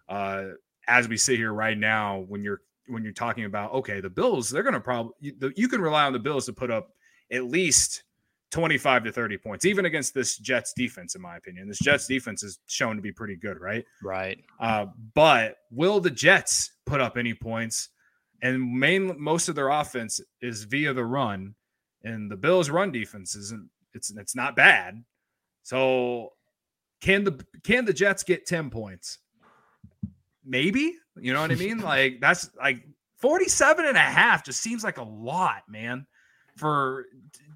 As we sit here right now, when you're talking about, okay, the Bills, they're going to probably, you can rely on the Bills to put up at least 25 to 30 points, even against this Jets defense, in my opinion. This Jets defense is shown to be pretty good, right? Right. But will the Jets put up any points? And most of their offense is via the run, and the Bills' run defense it's not bad. So can the Jets get 10 points? Maybe, you know what I mean? Like, that's like 47.5 just seems like a lot, man, for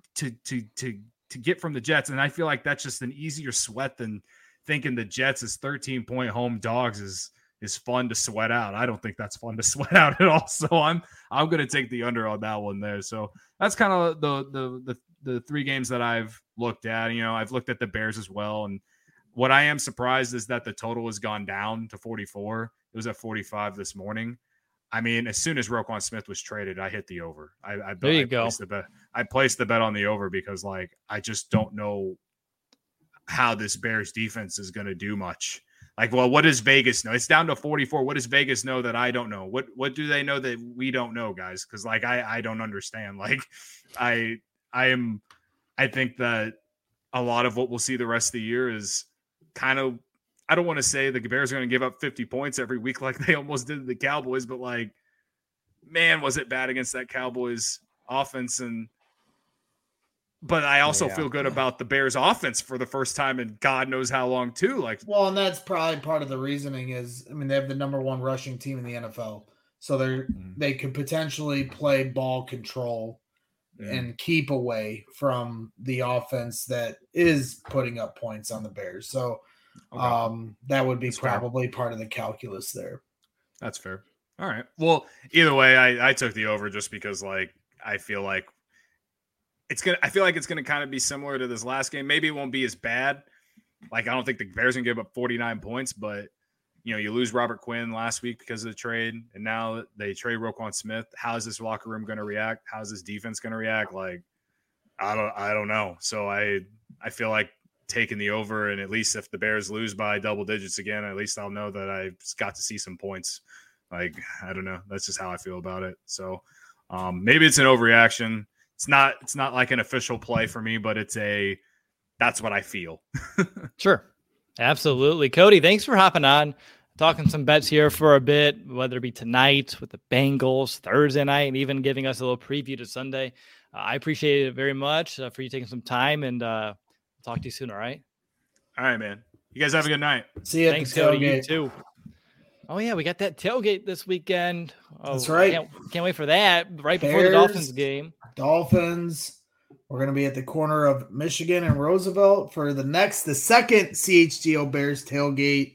to get from the Jets. And I feel like that's just an easier sweat than thinking the Jets as 13-point home dogs is fun to sweat out. I don't think that's fun to sweat out at all. So I'm going to take the under on that one there. So that's kind of the three games that I've looked at. You know, I've looked at the Bears as well. And what I am surprised is that the total has gone down to 44. It was at 45 this morning. I mean, as soon as Roquan Smith was traded, I hit the over. There you go. I placed the bet on the over because, like, I just don't know how this Bears defense is going to do much. Like, well, what does Vegas know? It's down to 44. What does Vegas know that I don't know? What do they know that we don't know, guys? Because, like, I don't understand. Like, I think that a lot of what we'll see the rest of the year is kind of, I don't want to say the Bears are going to give up 50 points every week like they almost did to the Cowboys, but, like, man, was it bad against that Cowboys offense. But I also feel good about the Bears offense for the first time in God knows how long too. Like, well, and that's probably part of the reasoning is, I mean, they have the number one rushing team in the NFL. So they could potentially play ball control and keep away from the offense that is putting up points on the Bears. So that would be that's probably fair. Part of the calculus there. That's fair. All right. Well, either way, I took the over just because, like, I feel like it's gonna kind of be similar to this last game. Maybe it won't be as bad. Like, I don't think the Bears can give up 49 points, but you know, you lose Robert Quinn last week because of the trade, and now they trade Roquan Smith. How is this locker room going to react? How is this defense going to react? Like, I don't know. So I feel like taking the over, and at least if the Bears lose by double digits again, at least I'll know that I got to see some points. Like, I don't know. That's just how I feel about it. So maybe it's an overreaction. It's not like an official play for me, but that's what I feel. Sure. Absolutely. Cody, thanks for hopping on, talking some bets here for a bit, whether it be tonight with the Bengals, Thursday night, and even giving us a little preview to Sunday. I appreciate it very much for you taking some time, and talk to you soon. All right. All right, man. You guys have a good night. See you. Thanks, Cody. You too. Oh yeah, we got that tailgate this weekend. Oh, that's right. Can't wait for that. Right before the Dolphins game. Dolphins. We're going to be at the corner of Michigan and Roosevelt for the second CHGO Bears tailgate.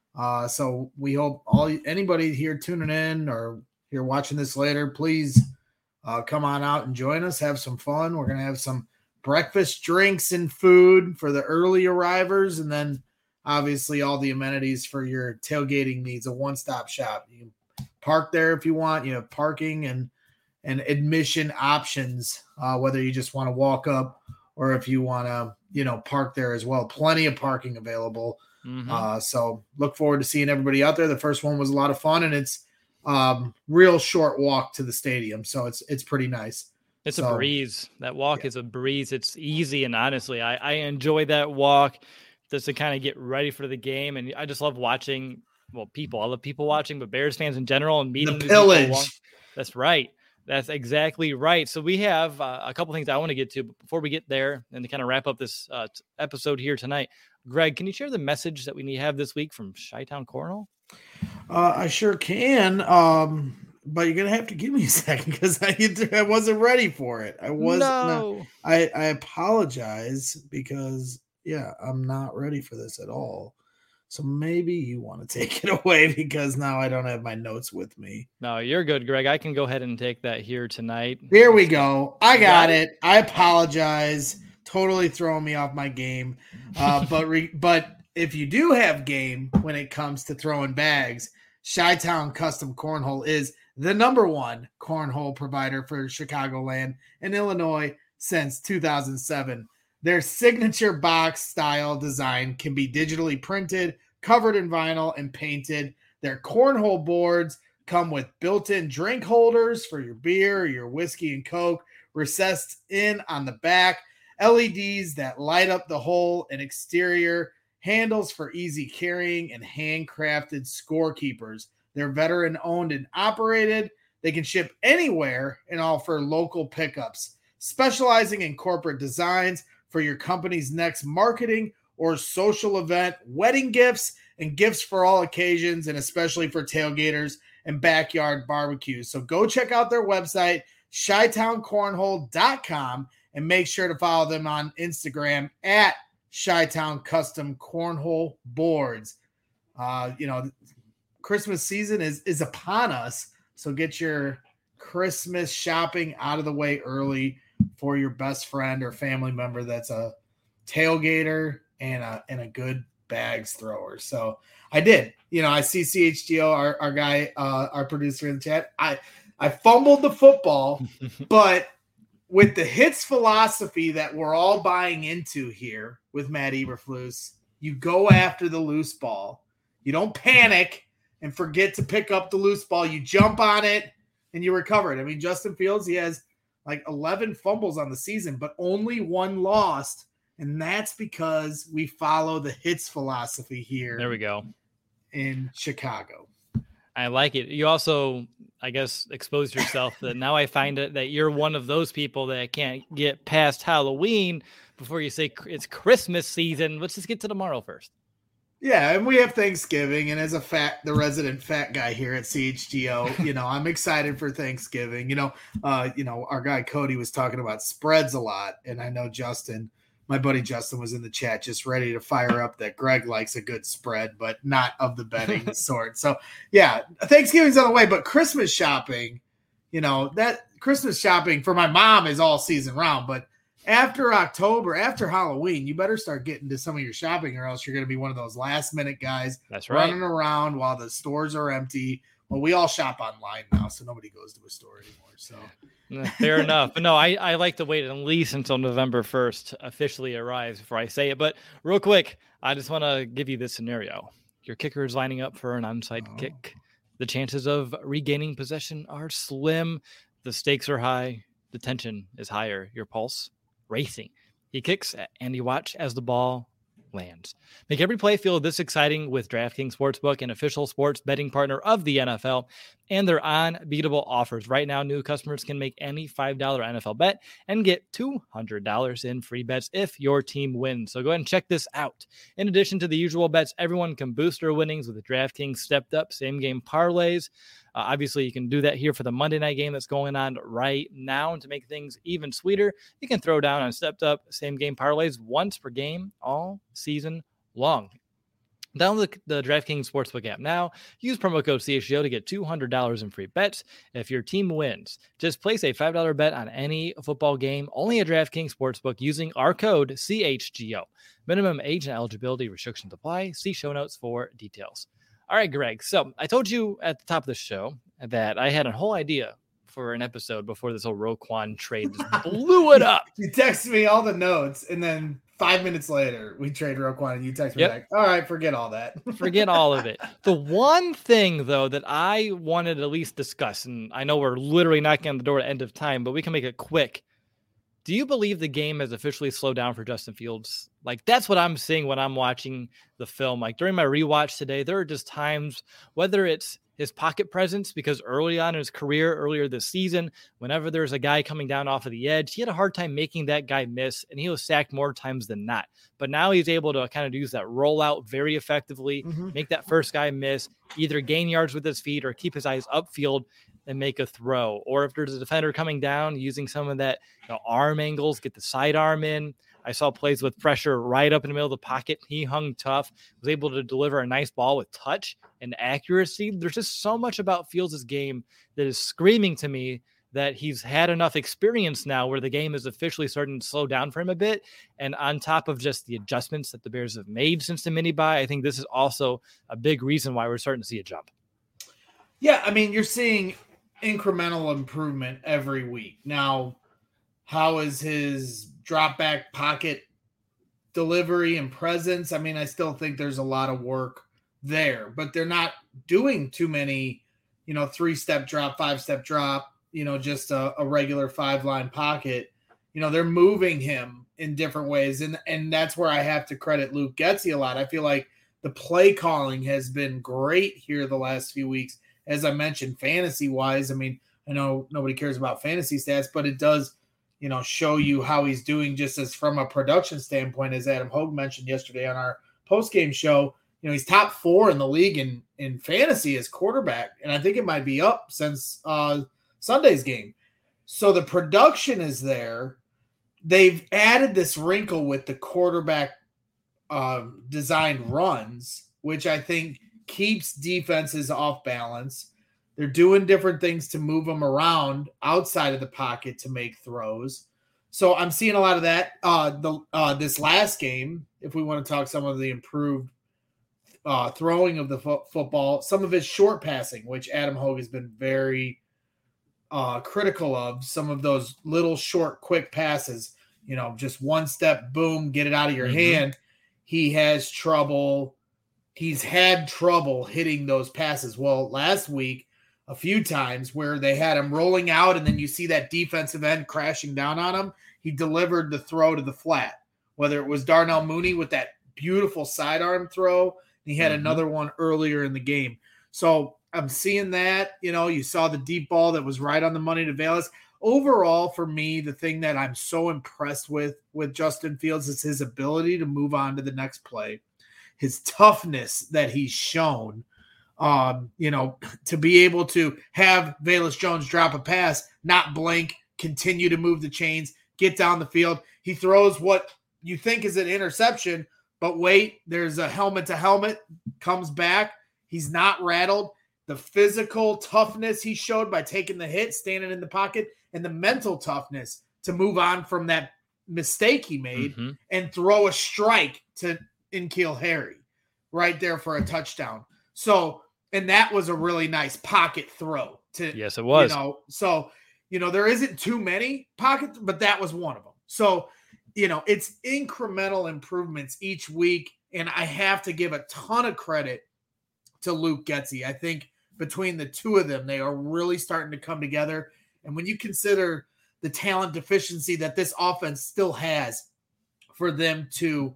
So we hope anybody here tuning in or here watching this later, please come on out and join us. Have some fun. We're going to have some breakfast, drinks, and food for the early arrivers, and then obviously all the amenities for your tailgating needs. A one-stop shop. You can park there if you want. You have parking and admission options, whether you just want to walk up or if you want to, park there as well. Plenty of parking available. Mm-hmm. So look forward to seeing everybody out there. The first one was a lot of fun, and it's real short walk to the stadium. So it's pretty nice. It's a breeze. That walk is a breeze. It's easy. And honestly, I enjoy that walk just to kind of get ready for the game. And I just love watching, people. I love people watching, but Bears fans in general and meeting the pillage. That's right. That's exactly right. So we have a couple things I want to get to, but before we get there and to kind of wrap up this episode here tonight, Greg, can you share the message that we need to have this week from Chi-Town Cornhole? I sure can, but you're gonna have to give me a second because I wasn't ready for it. I wasn't. I apologize because I'm not ready for this at all. So maybe you want to take it away because now I don't have my notes with me. No, you're good, Greg. I can go ahead and take that here tonight. Here we go. I got it. I apologize. Totally throwing me off my game. But if you do have game when it comes to throwing bags, Chi-Town Custom Cornhole is the #1 cornhole provider for Chicagoland and Illinois since 2007. Their signature box style design can be digitally printed, covered in vinyl, and painted. Their cornhole boards come with built-in drink holders for your beer, your whiskey and Coke, recessed in on the back, LEDs that light up the hole, and exterior handles for easy carrying, and handcrafted scorekeepers. They're veteran-owned and operated. They can ship anywhere and offer local pickups, specializing in corporate designs for your company's next marketing or social event, wedding gifts, and gifts for all occasions, and especially for tailgaters and backyard barbecues. So go check out their website, ChiTownCornhole.com, and make sure to follow them on Instagram at Chi-Town Custom Cornhole Boards. Christmas season is upon us, so get your Christmas shopping out of the way early for your best friend or family member that's a tailgater and a good bags thrower. So I did. I see CHGO, our guy, our producer in the chat. I fumbled the football, but with the hits philosophy that we're all buying into here with Matt Eberflus, you go after the loose ball. You don't panic and forget to pick up the loose ball. You jump on it and you recover it. I mean, Justin Fields, he has like 11 fumbles on the season, but only 1 lost. And that's because we follow the hits philosophy here. There we go. In Chicago. I like it. You also, I guess, exposed yourself that now I find it that you're one of those people that can't get past Halloween before you say it's Christmas season. Let's just get to tomorrow first. Yeah, and we have Thanksgiving, and as the resident fat guy here at CHGO, I'm excited for Thanksgiving. Our guy Cody was talking about spreads a lot, and I know my buddy Justin was in the chat just ready to fire up that Greg likes a good spread, but not of the betting sort. So, yeah, Thanksgiving's on the way, but Christmas shopping, that Christmas shopping for my mom is all season round, but after October, after Halloween, you better start getting to some of your shopping or else you're going to be one of those last-minute guys running around while the stores are empty. Well, we all shop online now, so nobody goes to a store anymore. So fair enough. But no, I like to wait at least until November 1st officially arrives before I say it. But real quick, I just want to give you this scenario. Your kicker is lining up for an onside kick. The chances of regaining possession are slim. The stakes are high. The tension is higher. Your pulse racing. He kicks and you watch as the ball lands. Make every play feel this exciting with DraftKings Sportsbook, an official sports betting partner of the NFL, and their unbeatable offers. Right now, new customers can make any $5 NFL bet and get $200 in free bets if your team wins. So go ahead and check this out. In addition to the usual bets, everyone can boost their winnings with the DraftKings stepped up same game parlays. Obviously, you can do that here for the Monday night game that's going on right now. And to make things even sweeter, you can throw down on stepped up same game parlays once per game all season long. Download the DraftKings Sportsbook app now. Use promo code CHGO to get $200 in free bets if your team wins. Just place a $5 bet on any football game only at DraftKings Sportsbook using our code CHGO. Minimum age and eligibility restrictions apply. See show notes for details. All right, Greg. So I told you at the top of the show that I had a whole idea for an episode before this whole Roquan trade just blew it up. You texted me all the notes, and then 5 minutes later, we trade Roquan, and you text me back, all right, forget all that. Forget all of it. The one thing, though, that I wanted to at least discuss, and I know we're literally knocking on the door at end of time, but we can make it quick. Do you believe the game has officially slowed down for Justin Fields? Like, that's what I'm seeing when I'm watching the film. Like, during my rewatch today, there are just times, whether it's his pocket presence, because early on in his career, earlier this season, whenever there's a guy coming down off of the edge, he had a hard time making that guy miss, and he was sacked more times than not. But now he's able to kind of use that rollout very effectively, make that first guy miss, either gain yards with his feet or keep his eyes upfield and make a throw. Or if there's a defender coming down, using some of that arm angles, get the sidearm in. I saw plays with pressure right up in the middle of the pocket. He hung tough, was able to deliver a nice ball with touch and accuracy. There's just so much about Fields' game that is screaming to me that he's had enough experience now where the game is officially starting to slow down for him a bit. And on top of just the adjustments that the Bears have made since the mini bye, I think this is also a big reason why we're starting to see a jump. Yeah, I mean, you're seeing incremental improvement every week. Now, how is his drop back pocket delivery and presence? I mean, I still think there's a lot of work there, but they're not doing too many, 3-step drop, 5-step drop, just a regular 5-line pocket. They're moving him in different ways. And that's where I have to credit Luke Getsy a lot. I feel like the play calling has been great here the last few weeks. As I mentioned, fantasy wise, I mean, I know nobody cares about fantasy stats, but it does, show you how he's doing just as from a production standpoint, as Adam Hogue mentioned yesterday on our post-game show. He's top 4 in the league in fantasy as quarterback. And I think it might be up since Sunday's game. So the production is there. They've added this wrinkle with the quarterback designed runs, which I think keeps defenses off balance. They're doing different things to move them around outside of the pocket to make throws. So I'm seeing a lot of that. This last game, if we want to talk some of the improved throwing of the football, some of his short passing, which Adam Hogue has been very critical of, some of those little short, quick passes, just one step, boom, get it out of your hand. He has trouble. He's had trouble hitting those passes. Well, last week, a few times where they had him rolling out and then you see that defensive end crashing down on him, he delivered the throw to the flat, whether it was Darnell Mooney with that beautiful sidearm throw. He had another one earlier in the game. So I'm seeing that, you saw the deep ball that was right on the money to Velus. Overall, for me, the thing that I'm so impressed with Justin Fields is his ability to move on to the next play, his toughness that he's shown, to be able to have Velus Jones drop a pass, not blink, continue to move the chains, get down the field. He throws what you think is an interception, but wait, there's a helmet to helmet, comes back. He's not rattled. The physical toughness he showed by taking the hit, standing in the pocket, and the mental toughness to move on from that mistake he made and throw a strike to N'Keal Harry right there for a touchdown. So, and that was a really nice pocket throw. Yes, it was. There isn't too many pockets, but that was one of them. So, it's incremental improvements each week, and I have to give a ton of credit to Luke Getsy. I think between the two of them, they are really starting to come together. And when you consider the talent deficiency that this offense still has, for them to,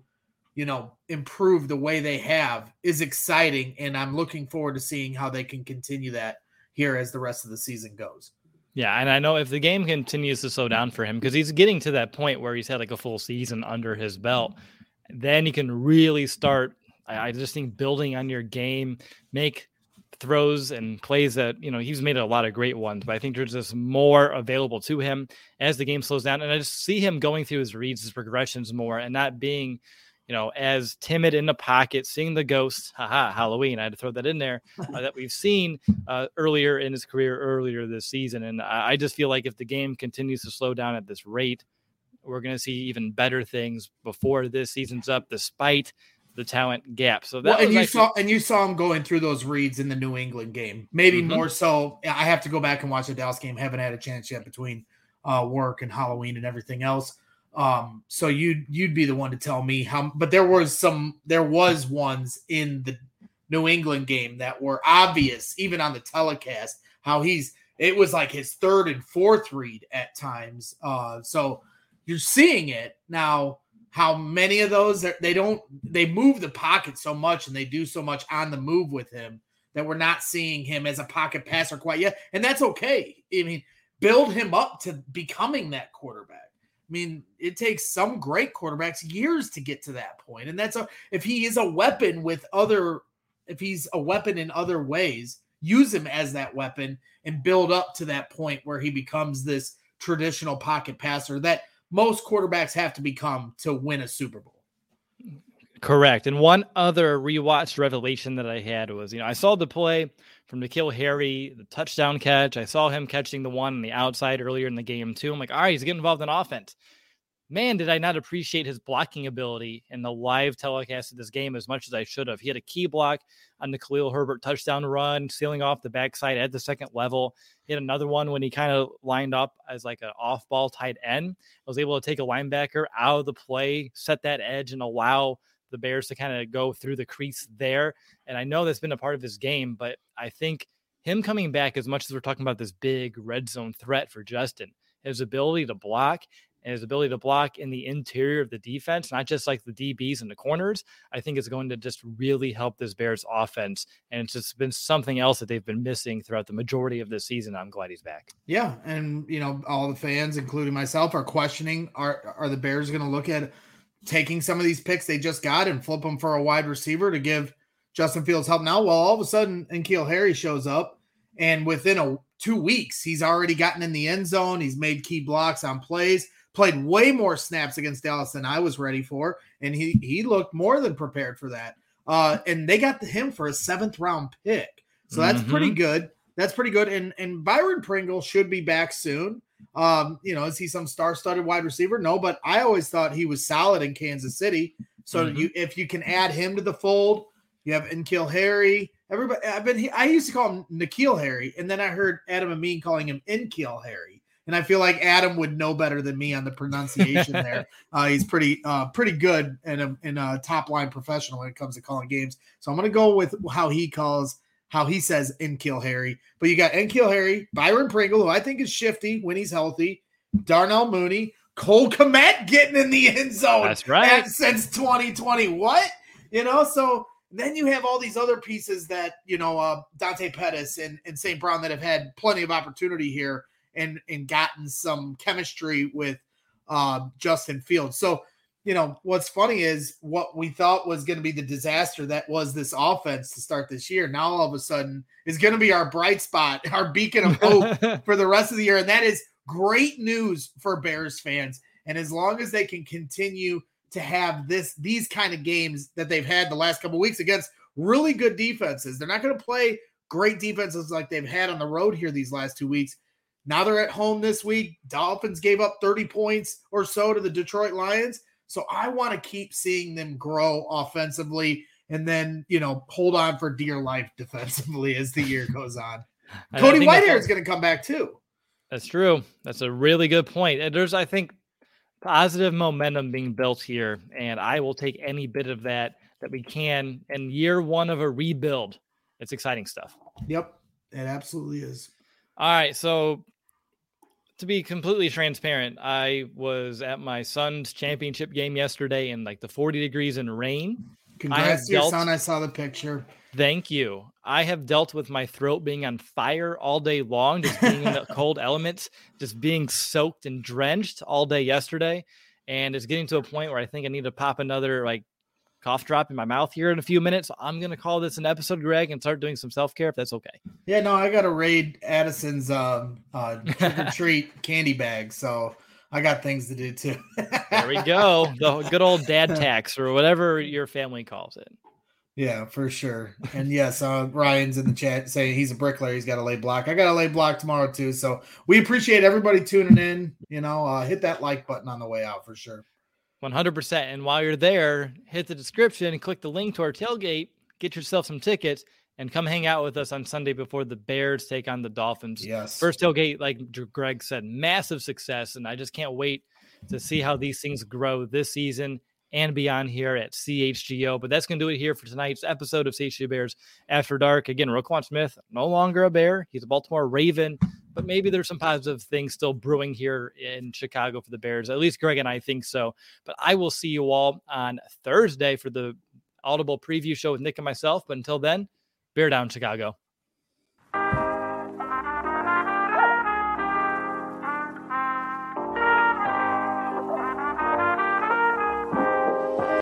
improve the way they have is exciting. And I'm looking forward to seeing how they can continue that here as the rest of the season goes. Yeah, and I know if the game continues to slow down for him, because he's getting to that point where he's had like a full season under his belt, then you can really start, I just think, building on your game, make throws and plays that, he's made a lot of great ones, but I think there's just more available to him as the game slows down. And I just see him going through his reads, his progressions more, and not being, as timid in the pocket, seeing the ghost, Halloween, I had to throw that in there, that we've seen earlier in his career, earlier this season. And I just feel like if the game continues to slow down at this rate, we're going to see even better things before this season's up, despite the talent gap. So that you saw him going through those reads in the New England game, maybe more so. I have to go back and watch the Dallas game. Haven't had a chance yet between work and Halloween and everything else. So you'd be the one to tell me how, but there was ones in the New England game that were obvious, even on the telecast, how it was like his third and fourth read at times. So you're seeing it now. How many of those they move the pocket so much and they do so much on the move with him that we're not seeing him as a pocket passer quite yet. And that's okay. I mean, build him up to becoming that quarterback. I mean, it takes some great quarterbacks years to get to that point. And if he is a weapon if he's a weapon in other ways, use him as that weapon and build up to that point where he becomes this traditional pocket passer that most quarterbacks have to become to win a Super Bowl. Correct. And one other rewatched revelation that I had was, I saw the play from N'Keal Harry, the touchdown catch. I saw him catching the one on the outside earlier in the game too. I'm like, all right, he's getting involved in offense. Man, did I not appreciate his blocking ability in the live telecast of this game as much as I should have. He had a key block on the Khalil Herbert touchdown run, sealing off the backside at the second level. He had another one when he kind of lined up as like an off-ball tight end. I was able to take a linebacker out of the play, set that edge, and allow the Bears to kind of go through the crease there. And I know that's been a part of his game, but I think him coming back, as much as we're talking about this big red zone threat for Justin, his ability to block and his ability to block in the interior of the defense, not just like the DBs and the corners, I think is going to just really help this Bears offense. And it's just been something else that they've been missing throughout the majority of this season. I'm glad he's back. Yeah. And, all the fans, including myself, are questioning, are the Bears going to look at taking some of these picks they just got and flip them for a wide receiver to give Justin Fields help now? Well, all of a sudden, N'Keal Harry shows up, and within 2 weeks, he's already gotten in the end zone. He's made key blocks on plays, played way more snaps against Dallas than I was ready for, and he looked more than prepared for that. And they got him for a 7th round pick. So that's pretty good. That's pretty good. And Byron Pringle should be back soon. Is he some star-studded wide receiver? No, but I always thought he was solid in Kansas City. So if you can add him to the fold, you have N'Keal Harry. Everybody, I used to call him N'Keal Harry, and then I heard Adam Amin calling him N'Keal Harry. And I feel like Adam would know better than me on the pronunciation there. He's pretty good and a top-line professional when it comes to calling games. So I'm going to go with how he says N'Keal Harry. But you got N'Keal Harry, Byron Pringle, who I think is shifty when he's healthy, Darnell Mooney, Cole Kmet getting in the end zone. That's right. Since 2020. What? So then you have all these other pieces that, Dante Pettis and St. Brown that have had plenty of opportunity here and gotten some chemistry with Justin Fields. So, what's funny is what we thought was going to be the disaster that was this offense to start this year. Now, all of a sudden, is going to be our bright spot, our beacon of hope for the rest of the year. And that is great news for Bears fans. And as long as they can continue to have these kind of games that they've had the last couple of weeks against really good defenses, they're not going to play great defenses like they've had on the road here these last 2 weeks. Now they're at home this week. Dolphins gave up 30 points or so to the Detroit Lions. So I want to keep seeing them grow offensively and then, hold on for dear life defensively as the year goes on. Cody Whitehair is going to come back too. That's true. That's a really good point. And there's, I think, positive momentum being built here. And I will take any bit of that we can in year one of a rebuild. It's exciting stuff. Yep, it absolutely is. All right. So to be completely transparent, I was at my son's championship game yesterday in like the 40 degrees and rain. Congrats to your son. I saw the picture. Thank you. I have dealt with my throat being on fire all day long, just being in the cold elements, just being soaked and drenched all day yesterday. And it's getting to a point where I think I need to pop another cough drop in my mouth here in a few minutes. I'm going to call this an episode, Greg, and start doing some self-care if that's okay. Yeah, no, I got to raid Addison's trick-or-treat candy bag, so I got things to do too. There we go. The good old dad tax or whatever your family calls it. Yeah, for sure. And yes, Ryan's in the chat saying he's a bricklayer. He's got to lay block. I got to lay block tomorrow too. So we appreciate everybody tuning in. Hit that like button on the way out for sure. 100%. And while you're there, hit the description and click the link to our tailgate, get yourself some tickets, and come hang out with us on Sunday before the Bears take on the Dolphins. Yes. First tailgate, like Greg said, massive success. And I just can't wait to see how these things grow this season and beyond here at CHGO. But that's going to do it here for tonight's episode of CHGO Bears After Dark. Again, Roquan Smith, no longer a Bear. He's a Baltimore Raven. But maybe there's some positive things still brewing here in Chicago for the Bears. At least Greg and I think so. But I will see you all on Thursday for the Audible preview show with Nick and myself. But until then, Bear down, Chicago.